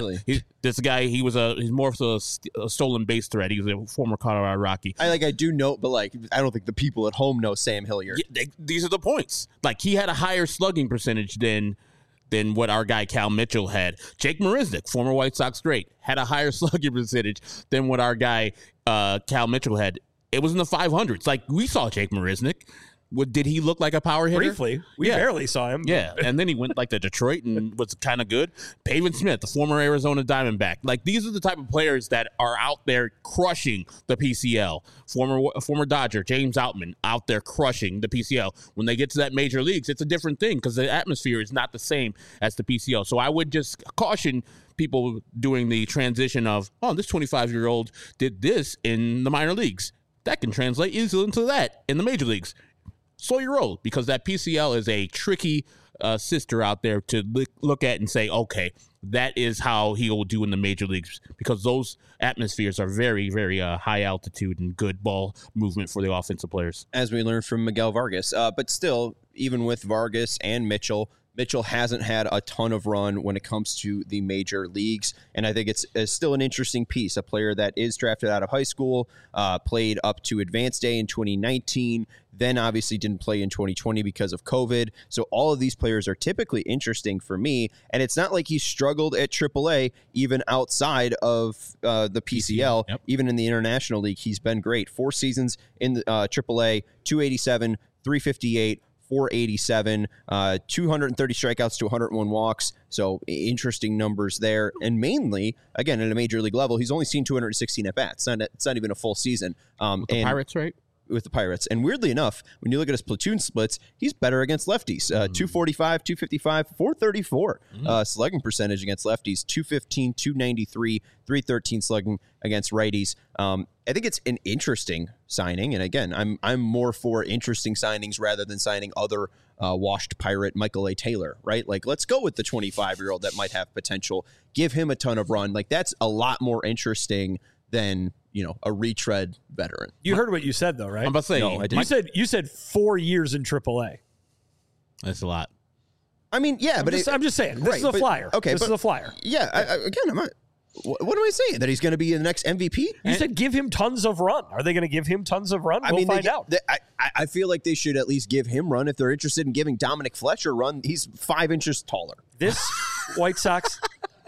This guy, he's more of a stolen base threat. He was a former Colorado Rocky. I do know, but I don't think the people at home know Sam Hilliard. Yeah, these are the points. Like, he had a higher slugging percentage than what our guy Cal Mitchell had. Jake Marisnick, former White Sox great, had a higher slugging percentage than what our guy Cal Mitchell had. It was in the 500s. Like, we saw Jake Marisnick. Did he look like a power hitter? Briefly. We barely saw him. Yeah, and then he went to Detroit and was kind of good. Pavin Smith, the former Arizona Diamondback. Like, these are the type of players that are out there crushing the PCL. Former Dodger, James Outman, out there crushing the PCL. When they get to that major leagues, it's a different thing because the atmosphere is not the same as the PCL. So I would just caution people doing the transition of, this 25-year-old did this in the minor leagues. That can translate easily into that in the major leagues. Slow your roll, because that PCL is a tricky sister out there to look at and say, okay, that is how he will do in the major leagues, because those atmospheres are very, very high altitude and good ball movement for the offensive players. As we learned from Miguel Vargas. But still, even with Vargas and Mitchell hasn't had a ton of run when it comes to the major leagues, and I think it's still an interesting piece. A player that is drafted out of high school, played up to Advanced Day in 2019, then obviously didn't play in 2020 because of COVID. So all of these players are typically interesting for me, and it's not like he struggled at AAA, even outside of the PCL. Yep. Even in the International League, he's been great. 4 seasons in the AAA, 287, 358, 487, 230 strikeouts to 101 walks. So interesting numbers there. And mainly, again, at a major league level, he's only seen 216 at-bats. It's not even a full season. With the Pirates, right? With the Pirates. And weirdly enough, when you look at his platoon splits, he's better against lefties. 245, 255, 434 slugging percentage against lefties, 215, 293, 313 slugging against righties. I think it's an interesting signing. And again, I'm more for interesting signings rather than signing other washed Pirate Michael A. Taylor, right? Like, let's go with the 25-year-old that might have potential. Give him a ton of run. Like, that's a lot more interesting than, a retread veteran. You heard what you said, though, right? I'm about to say, no, I didn't. You said 4 years in AAA. That's a lot. I mean, yeah, I'm just saying. This is a flyer. Okay, this is a flyer. Yeah, I'm not. What am I saying? That he's going to be the next MVP? You said give him tons of run. Are they going to give him tons of run? We'll find out. I feel like they should at least give him run. If they're interested in giving Dominic Fletcher run, he's 5 inches taller. This White Sox,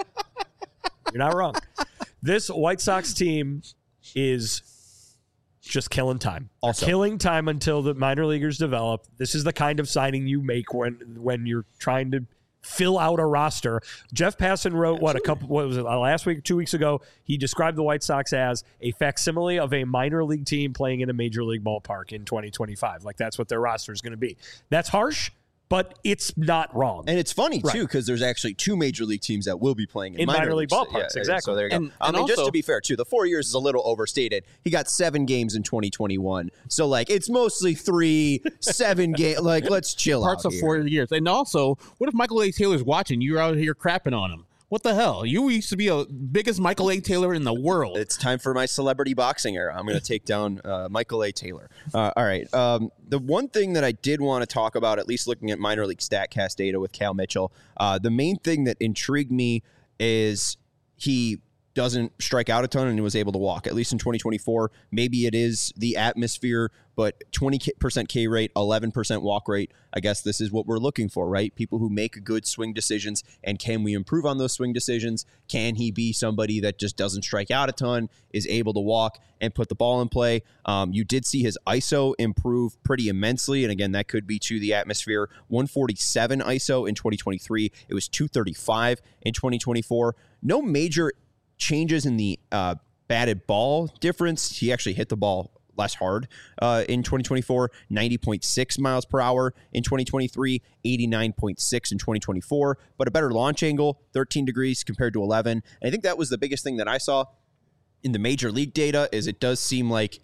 you're not wrong. This White Sox team is just killing time. Also, killing time until the minor leaguers develop. This is the kind of signing you make when you're trying to fill out a roster. Jeff Passan wrote last week, 2 weeks ago, he described the White Sox as a facsimile of a minor league team playing in a major league ballpark in 2025. Like, that's what their roster is going to be. That's harsh, but it's not wrong. And it's funny, too, because there's actually 2 major league teams that will be playing in minor league ballparks. Yeah, exactly. So there you go. And I mean, also, just to be fair, too, the 4 years is a little overstated. He got 7 games in 2021. So, like, it's mostly 3, 7 games. Like, let's chill parts out of here. 4 years. And also, what if Michael A. Taylor's watching? You're out here crapping on him. What the hell? You used to be a biggest Michael A. Taylor in the world. It's time for my celebrity boxing era. I'm going to take down Michael A. Taylor. All right. The one thing that I did want to talk about, at least looking at minor league StatCast data with Cal Mitchell, the main thing that intrigued me is he doesn't strike out a ton and he was able to walk, at least in 2024. Maybe it is the atmosphere, but 20% K rate, 11% walk rate. I guess this is what we're looking for, right? People who make good swing decisions. And can we improve on those swing decisions? Can he be somebody that just doesn't strike out a ton, is able to walk and put the ball in play? You did see his ISO improve pretty immensely. And again, that could be to the atmosphere. 147 ISO in 2023. It was 235 in 2024. No major changes in the batted ball difference. He actually hit the ball less hard in 2024, 90.6 miles per hour in 2023, 89.6 in 2024, but a better launch angle, 13 degrees compared to 11. And I think that was the biggest thing that I saw in the major league data is it does seem like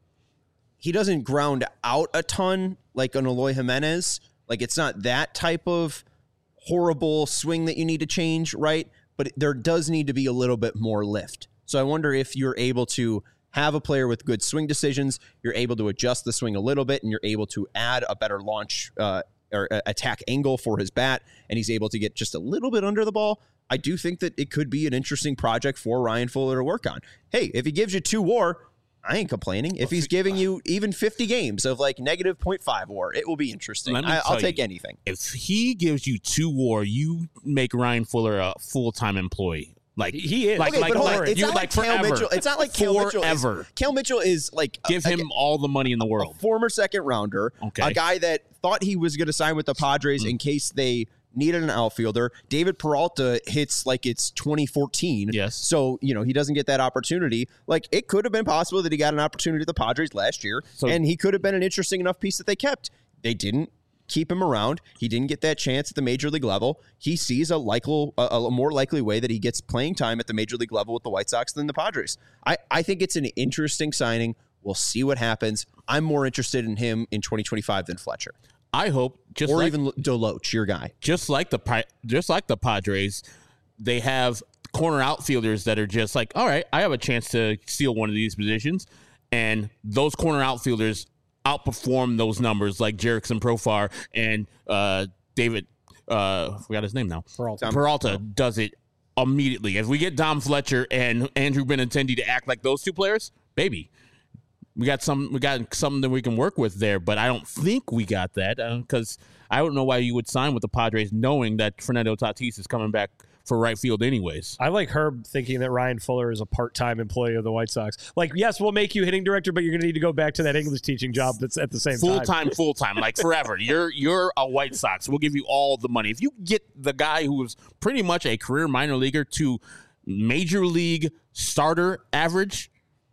he doesn't ground out a ton like an Eloy Jimenez. Like it's not that type of horrible swing that you need to change, right? But there does need to be a little bit more lift. So I wonder if you're able to have a player with good swing decisions, you're able to adjust the swing a little bit, and you're able to add a better launch or attack angle for his bat, and he's able to get just a little bit under the ball. I do think that it could be an interesting project for Ryan Fuller to work on. Hey, if he gives you 2 WAR, I ain't complaining. If he's giving you even 50 games of like negative 0.5 WAR, it will be interesting. I'll take anything. If he gives you 2 WAR, you make Ryan Fuller a full-time employee. Like he is. Like, okay, but hold on. It's you not like forever. Cal Mitchell. It's not like Cal Mitchell. Cal Mitchell is like give him all the money in the world. A former second rounder, a guy that thought he was going to sign with the Padres in case they needed an outfielder. David Peralta hits like it's 2014. Yes. So, you know, he doesn't get that opportunity. Like, it could have been possible that he got an opportunity at the Padres last year, and he could have been an interesting enough piece that they kept. They didn't keep him around. He didn't get that chance at the major league level. He sees a more likely way that he gets playing time at the major league level with the White Sox than the Padres. I think it's an interesting signing. We'll see what happens. I'm more interested in him in 2025 than Fletcher. I hope, even Deloach, your guy. Just like the Padres, they have corner outfielders that are just like, all right, I have a chance to steal one of these positions, and those corner outfielders outperform those numbers, like Jerickson Profar and David. Forgot his name now. Peralta does it immediately. If we get Dom Fletcher and Andrew Benintendi to act like those 2 players, baby. We got something that we can work with there, but I don't think we got that because I don't know why you would sign with the Padres knowing that Fernando Tatis is coming back for right field anyways. I like Herb thinking that Ryan Fuller is a part-time employee of the White Sox. Like, yes, we'll make you hitting director, but you're going to need to go back to that English teaching job that's at the same time. Full-time, like forever. You're a White Sox. We'll give you all the money. If you get the guy who was pretty much a career minor leaguer to major league starter average,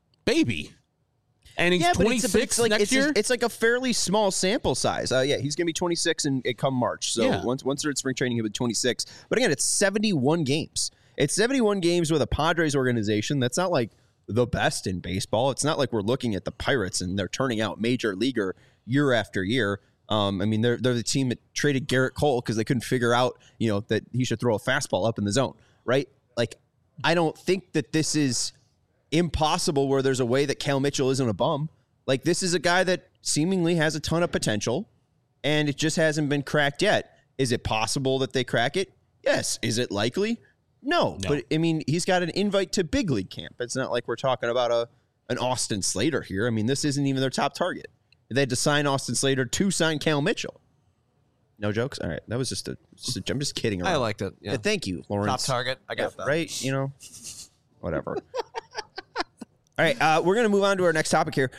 baby. And he's 26 next year? It's like a fairly small sample size. He's going to be 26 and come March. So once they're at spring training, he'll be 26. But again, it's 71 games. It's 71 games with a Padres organization that's not like the best in baseball. It's not like we're looking at the Pirates and they're turning out major leaguer year after year. I mean, they're the team that traded Garrett Cole because they couldn't figure out, that he should throw a fastball up in the zone, right? Like, I don't think that this is impossible where there's a way that Cal Mitchell isn't a bum. Like, this is a guy that seemingly has a ton of potential and it just hasn't been cracked yet. Is it possible that they crack it? Yes. Is it likely? No. But I mean, he's got an invite to big league camp. It's not like we're talking about an Austin Slater here. I mean, this isn't even their top target. They had to sign Austin Slater to sign Cal Mitchell. No jokes? All right. That was just I'm just kidding around. I liked it. Yeah. Thank you, Lawrence. Top target. I got that. Right? Whatever. All right, we're going to move on to our next topic here.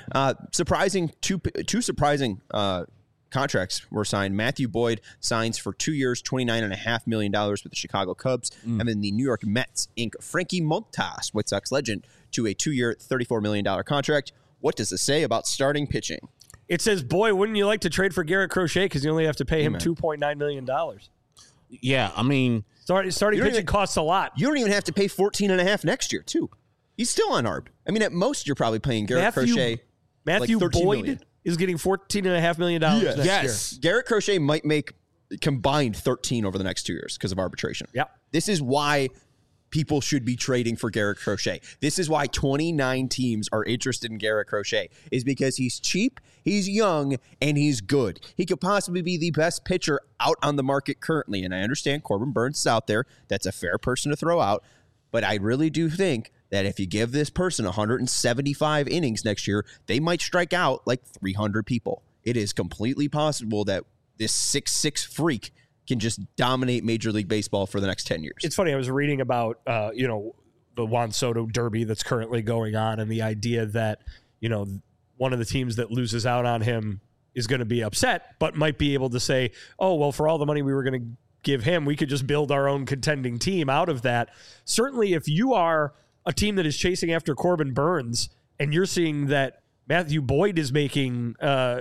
Two surprising contracts were signed. Matthew Boyd signs for 2 years, $29.5 million with the Chicago Cubs. And then the New York Mets ink Frankie Montas, White Sox legend, to a 2-year, $34 million contract. What does this say about starting pitching? It says, boy, wouldn't you like to trade for Garrett Crochet because you only have to pay him $2.9 million. Yeah, I mean, starting pitching costs a lot. You don't even have to pay 14.5 next year, too. He's still unarmed. I mean, at most, you're probably paying Garrett Crochet. Matthew like Boyd million. Is getting $14.5 million next year. Garrett Crochet might make combined 13 over the next 2 years because of arbitration. Yeah. This is why people should be trading for Garrett Crochet. This is why 29 teams are interested in Garrett Crochet, is because he's cheap, he's young, and he's good. He could possibly be the best pitcher out on the market currently. And I understand Corbin Burns is out there. That's a fair person to throw out. But I really do think that if you give this person 175 innings next year, they might strike out like 300 people. It is completely possible that this 6'6" freak can just dominate Major League Baseball for the next 10 years. It's funny. I was reading about, the Juan Soto Derby that's currently going on, and the idea that, one of the teams that loses out on him is going to be upset, but might be able to say, oh, well, for all the money we were going to give him, we could just build our own contending team out of that. Certainly, if you are a team that is chasing after Corbin Burns and you're seeing that Matthew Boyd is making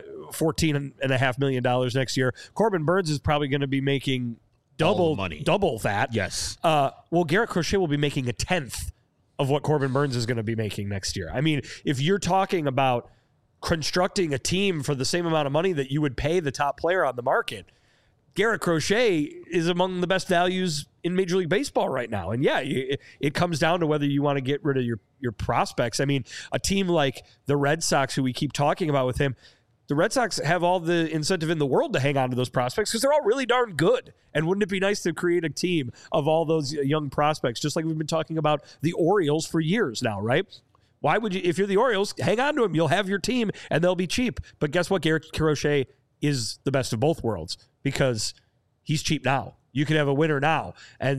$14.5 million next year, Corbin Burns is probably going to be making double that. Yes. Well, Garrett Crochet will be making a tenth of what Corbin Burns is going to be making next year. I mean, if you're talking about constructing a team for the same amount of money that you would pay the top player on the market, Garrett Crochet is among the best values in Major League Baseball right now. And yeah, it comes down to whether you want to get rid of your prospects. I mean, a team like the Red Sox, who we keep talking about with him, the Red Sox have all the incentive in the world to hang on to those prospects because they're all really darn good. And wouldn't it be nice to create a team of all those young prospects, just like we've been talking about the Orioles for years now, right? Why would you, if you're the Orioles, hang on to them. You'll have your team and they'll be cheap. But guess what? Garrett Crochet is the best of both worlds because he's cheap now. You can have a winner now, and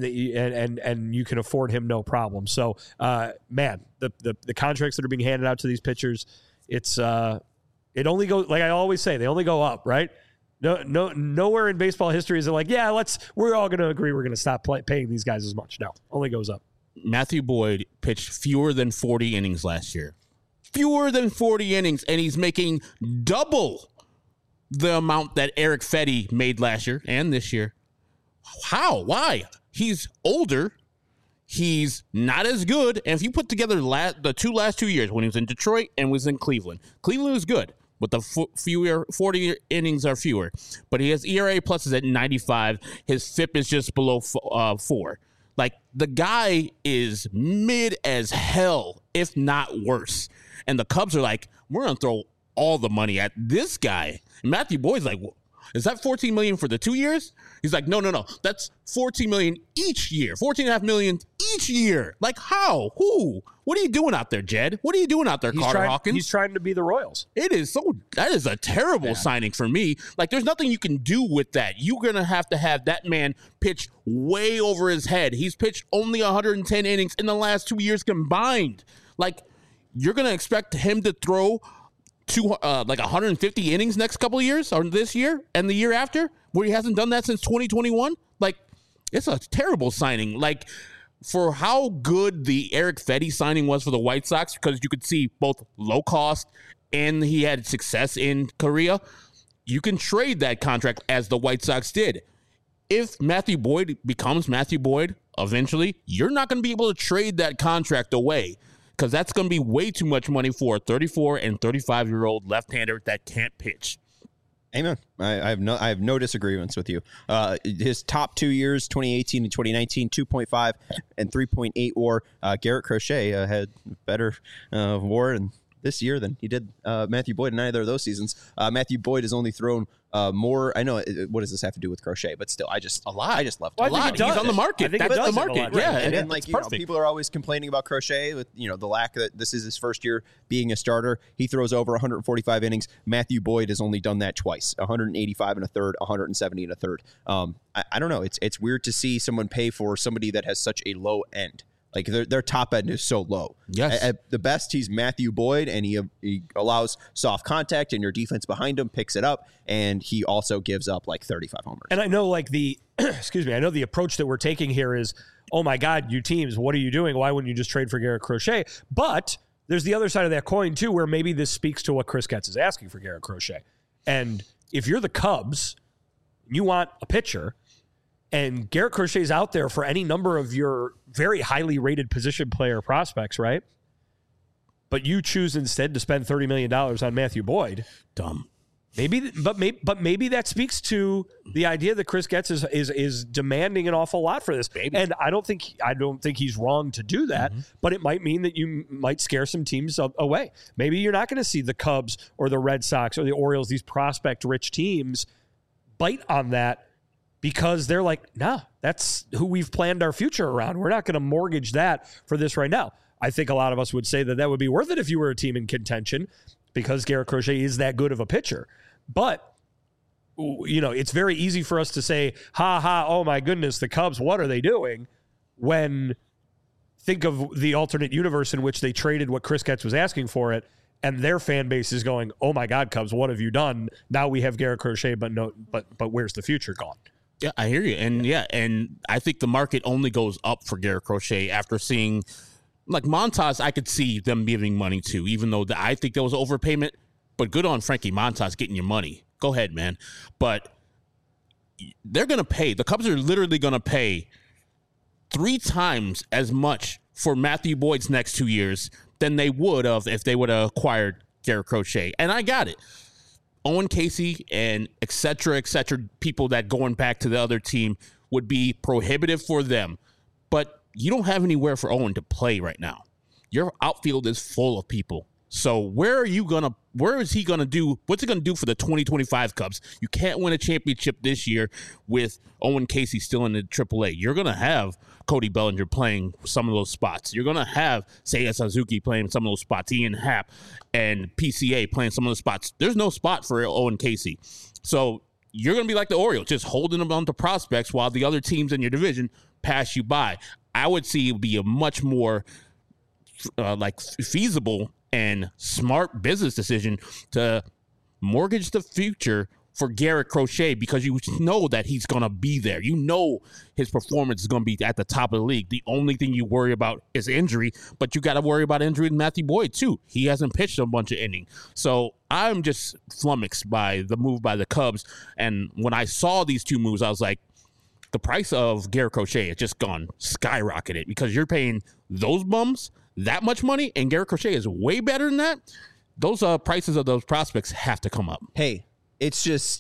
you can afford him no problem. So, man, the contracts that are being handed out to these pitchers, it only goes, like I always say, they only go up, right? Nowhere in baseball history is it like, yeah, we're all going to agree we're going to stop paying these guys as much. No, only goes up. Matthew Boyd pitched fewer than 40 innings last year. Fewer than 40 innings, and he's making double the amount that Eric Fetty made last year and this year. How? Why? He's older. He's not as good. And if you put together the last 2 years, when he was in Detroit and was in Cleveland was good, but the 40 innings are fewer. But his ERA plus is at 95. His FIP is just below 4. Like, the guy is mid as hell, if not worse. And the Cubs are like, we're going to throw all the money at this guy. And Matthew Boyd's like, is that $14 million for the 2 years? He's like, no. That's $14 million each year. $14.5 million each year. Like, how? Who? What are you doing out there, Jed? What are you doing out there, Carter Hawkins? He's trying to be the Royals. That is a terrible signing for me. Like, there's nothing you can do with that. You're going to have that man pitch way over his head. He's pitched only 110 innings in the last 2 years combined. Like, you're going to expect him to throw 150 innings next couple of years, or this year and the year after, where he hasn't done that since 2021. Like, it's a terrible signing. Like, for how good the Eric Fetty signing was for the White Sox, because you could see both low cost and he had success in Korea, you can trade that contract as the White Sox did. If Matthew Boyd becomes Matthew Boyd eventually, you're not going to be able to trade that contract away, because that's going to be way too much money for a 34 and 35-year-old left-hander that can't pitch. Amen. I have no disagreements with you. His top 2 years, 2018 and 2019, 2.5 and 3.8 WAR. Garrett Crochet had better WAR in this year than he did Matthew Boyd in either of those seasons. Matthew Boyd has only thrown more. I know. What does this have to do with Crochet? But still, I just love well, a lot. He's on the market. That's the market. Yeah, and like people are always complaining about Crochet with the lack that this is his first year being a starter. He throws over 145 innings. Matthew Boyd has only done that twice: 185 and a third, 170 and a third. I don't know. It's weird to see someone pay for somebody that has such a low end. Like, their top end is so low. Yes. At the best, he's Matthew Boyd, and he allows soft contact, and your defense behind him picks it up, and he also gives up like 35 homers. And I know, like, I know the approach that we're taking here is, oh my God, you teams, what are you doing? Why wouldn't you just trade for Garrett Crochet? But there's the other side of that coin too, where maybe this speaks to what Chris Getz is asking for Garrett Crochet. And if you're the Cubs, you want a pitcher, and Garrett Crochet is out there for any number of your very highly rated position player prospects, right? But you choose instead to spend $30 million on Matthew Boyd. Dumb. Maybe that speaks to the idea that Chris Getz is demanding an awful lot for this. Maybe. And I don't think he's wrong to do that, but it might mean that you might scare some teams away. Maybe you're not going to see the Cubs or the Red Sox or the Orioles, these prospect-rich teams, bite on that because they're like, nah, that's who we've planned our future around. We're not going to mortgage that for this right now. I think a lot of us would say that would be worth it if you were a team in contention because Garrett Crochet is that good of a pitcher. But, you know, it's very easy for us to say, oh my goodness, the Cubs, what are they doing? When think of the alternate universe in which they traded what Chris Getz was asking for it, and their fan base is going, oh my God, Cubs, what have you done? Now we have Garrett Crochet, but where's the future gone? Yeah, I hear you. And I think the market only goes up for Garrett Crochet after seeing, like Montas, I could see them giving money to, even though I think there was overpayment. But good on Frankie Montas getting your money. Go ahead, man. But they're going to pay. The Cubs are literally going to pay 3 times as much for Matthew Boyd's next 2 years than they would have if they would have acquired Garrett Crochet. And I got it. Owen Casey and et cetera, people that going back to the other team would be prohibitive for them. But you don't have anywhere for Owen to play right now. Your outfield is full of people. So where is he going to do? What's he going to do for the 2025 Cubs? You can't win a championship this year with Owen Casey still in the AAA. You're going to have Cody Bellinger playing some of those spots. You're going to have Seiya Suzuki playing some of those spots, Ian Happ and PCA playing some of those spots. There's no spot for Owen Casey. So you're going to be like the Orioles, just holding them on to prospects while the other teams in your division pass you by. I would see it would be a much more feasible and smart business decision to mortgage the future for Garrett Crochet because you know that he's going to be there. You know his performance is going to be at the top of the league. The only thing you worry about is injury, but you got to worry about injury with Matthew Boyd too. He hasn't pitched a bunch of innings. So I'm just flummoxed by the move by the Cubs. And when I saw these two moves, I was like, the price of Garrett Crochet has just gone skyrocketed because you're paying those bums that much money, and Garrett Crochet is way better than that. Those prices of those prospects have to come up. Hey, it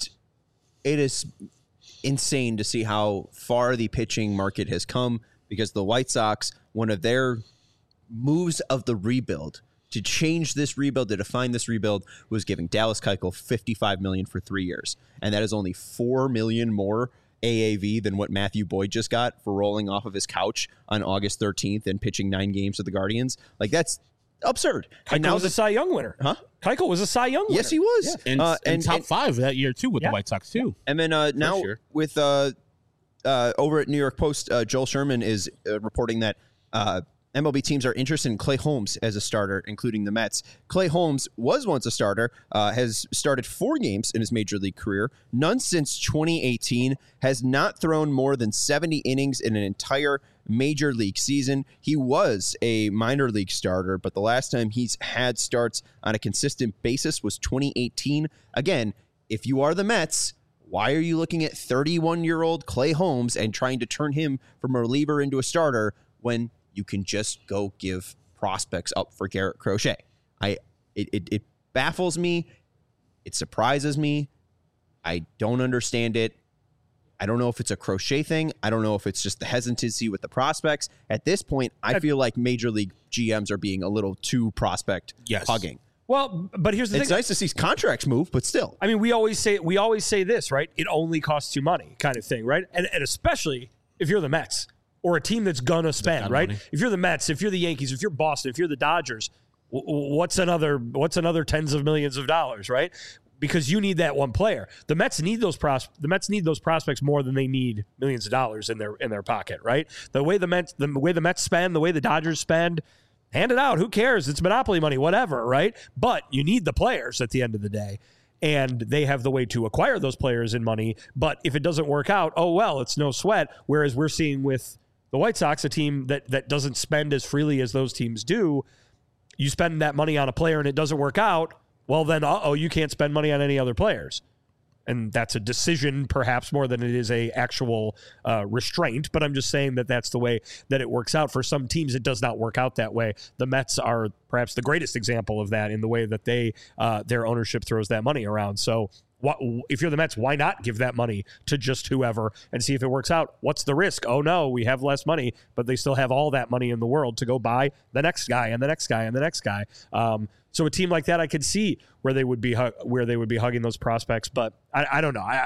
is insane to see how far the pitching market has come because the White Sox, one of their moves of the rebuild to change this rebuild, to define this rebuild, was giving Dallas Keuchel $55 million for 3 years, and that is only $4 million more AAV than what Matthew Boyd just got for rolling off of his couch on August 13th and pitching 9 games with the Guardians. Like, that's absurd. Keuchel was a Cy Young winner. Huh? Keuchel was a Cy Young winner. Yes, he was. Yeah. And top 5 that year, too, with the White Sox, too. And then now with over at New York Post, Joel Sherman is reporting that MLB teams are interested in Clay Holmes as a starter, including the Mets. Clay Holmes was once a starter, has started 4 games in his major league career, none since 2018, has not thrown more than 70 innings in an entire major league season. He was a minor league starter, but the last time he's had starts on a consistent basis was 2018. Again, if you are the Mets, why are you looking at 31-year-old Clay Holmes and trying to turn him from a reliever into a starter when you can just go give prospects up for Garrett Crochet? It baffles me. It surprises me. I don't understand it. I don't know if it's a Crochet thing. I don't know if it's just the hesitancy with the prospects. At this point, I feel like major league GMs are being a little too prospect hugging. Well, but here's the thing. It's nice to see contracts move, but still. I mean, we always say this, right? It only costs you money kind of thing, right? And especially if you're the Mets or a team that's going to spend, right? Money. If you're the Mets, if you're the Yankees, if you're Boston, if you're the Dodgers, what's another tens of millions of dollars, right? Because you need that one player. The Mets need those prospects more than they need millions of dollars in their pocket, right? The way the Mets spend, the way the Dodgers spend, hand it out. Who cares? It's monopoly money, whatever, right? But you need the players at the end of the day. And they have the way to acquire those players in money. But if it doesn't work out, oh, well, it's no sweat. Whereas we're seeing with the White Sox, a team that doesn't spend as freely as those teams do, you spend that money on a player and it doesn't work out, well, then, you can't spend money on any other players. And that's a decision perhaps more than it is a actual restraint. But I'm just saying that that's the way that it works out. For some teams, it does not work out that way. The Mets are perhaps the greatest example of that in the way that their ownership throws that money around. So if you're the Mets, why not give that money to just whoever and see if it works out? What's the risk? Oh, no, we have less money, but they still have all that money in the world to go buy the next guy and the next guy and the next guy. So a team like that, I could see where they would be hugging those prospects, but I don't know.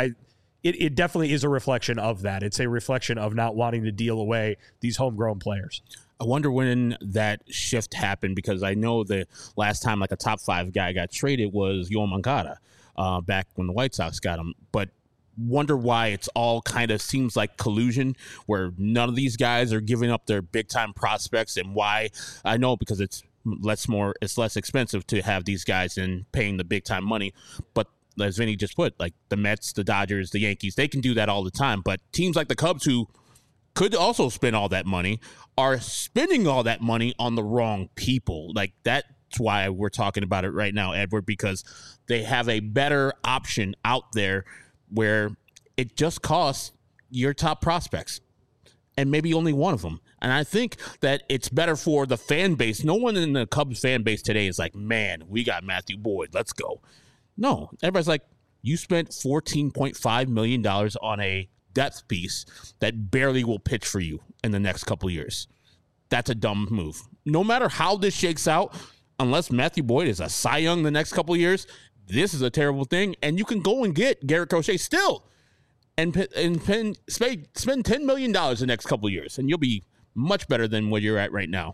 It definitely is a reflection of that. It's a reflection of not wanting to deal away these homegrown players. I wonder when that shift happened, because I know the last time like a top 5 guy got traded was Yoan Moncada back when the White Sox got him. But wonder why it's all kind of seems like collusion where none of these guys are giving up their big time prospects, and why. I know because it's less expensive to have these guys than paying the big time money. But as Vinny just put, like the Mets, the Dodgers, the Yankees, they can do that all the time. But teams like the Cubs, who could also spend all that money, are spending all that money on the wrong people. Like that's why we're talking about it right now, Edward, because they have a better option out there where it just costs your top prospects and maybe only one of them. And I think that it's better for the fan base. No one in the Cubs fan base today is like, man, we got Matthew Boyd, let's go. No, everybody's like, you spent $14.5 million on a depth piece that barely will pitch for you in the next couple of years. That's a dumb move. No matter how this shakes out, unless Matthew Boyd is a Cy Young the next couple of years, this is a terrible thing. And you can go and get Garrett Crochet still and spend $10 million the next couple of years, and you'll be much better than where you're at right now.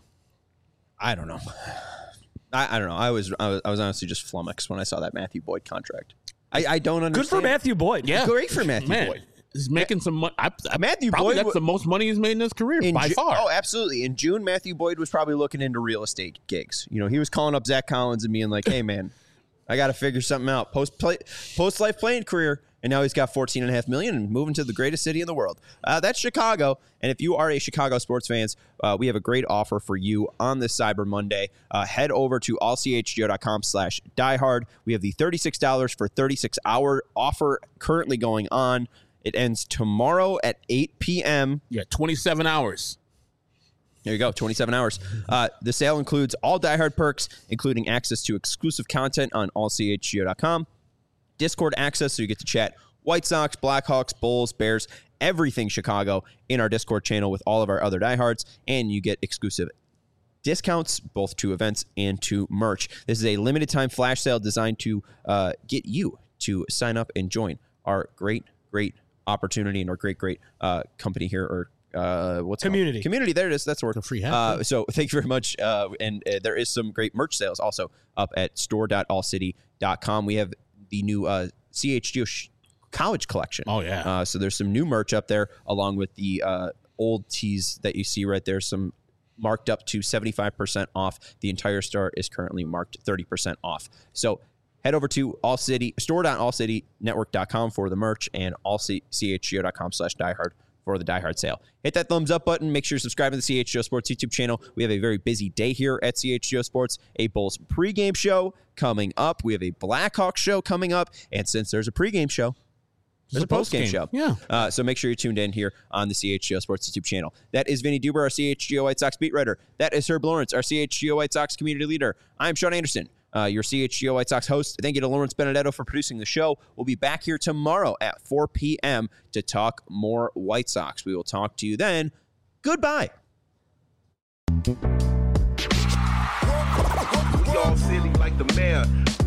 I don't know. I don't know. I was honestly just flummoxed when I saw that Matthew Boyd contract. I don't understand. Good for Matthew Boyd. Yeah. Great for Matthew Boyd. He's making some money. Matthew probably Boyd, that's the most money he's made in his career by far. Oh, absolutely. In June, Matthew Boyd was probably looking into real estate gigs. You know, he was calling up Zach Collins and being like, hey, man, I got to figure something out. Post-life playing career. And now he's got $14.5 million and moving to the greatest city in the world. That's Chicago. And if you are a Chicago sports fans, we have a great offer for you on this Cyber Monday. Head over to allchgo.com/diehard. We have the $36 for 36-hour offer currently going on. It ends tomorrow at 8 p.m. Yeah, 27 hours. There you go, 27 hours. The sale includes all diehard perks, including access to exclusive content on allchgo.com. Discord access, so you get to chat White Sox, Blackhawks, Bulls, Bears, everything Chicago in our Discord channel with all of our other diehards, and you get exclusive discounts both to events and to merch. This is a limited time flash sale designed to get you to sign up and join our great opportunity and our great company here, or what's community. Community. There it is. That's the word. Free so thank you very much. And there is some great merch sales also up at store.allcity.com. We have the new CHGO college collection. Oh, yeah. So there's some new merch up there along with the old tees that you see right there. Some marked up to 75% off. The entire store is currently marked 30% off. So head over to store.allcitynetwork.com for the merch and chgo.com/diehard for the diehard sale. Hit that thumbs up button. Make sure you're subscribing to the CHGO Sports YouTube channel. We have a very busy day here at CHGO Sports. A Bulls pregame show coming up. We have a Blackhawks show coming up. And since there's a pregame show, there's a postgame show. Yeah. So make sure you're tuned in here on the CHGO Sports YouTube channel. That is Vinny Duber, our CHGO White Sox beat writer. That is Herb Lawrence, our CHGO White Sox community leader. I'm Sean Anderson, your CHGO White Sox host. Thank you to Lawrence Benedetto for producing the show. We'll be back here tomorrow at 4 p.m. to talk more White Sox. We will talk to you then. Goodbye. We all silly like the mayor.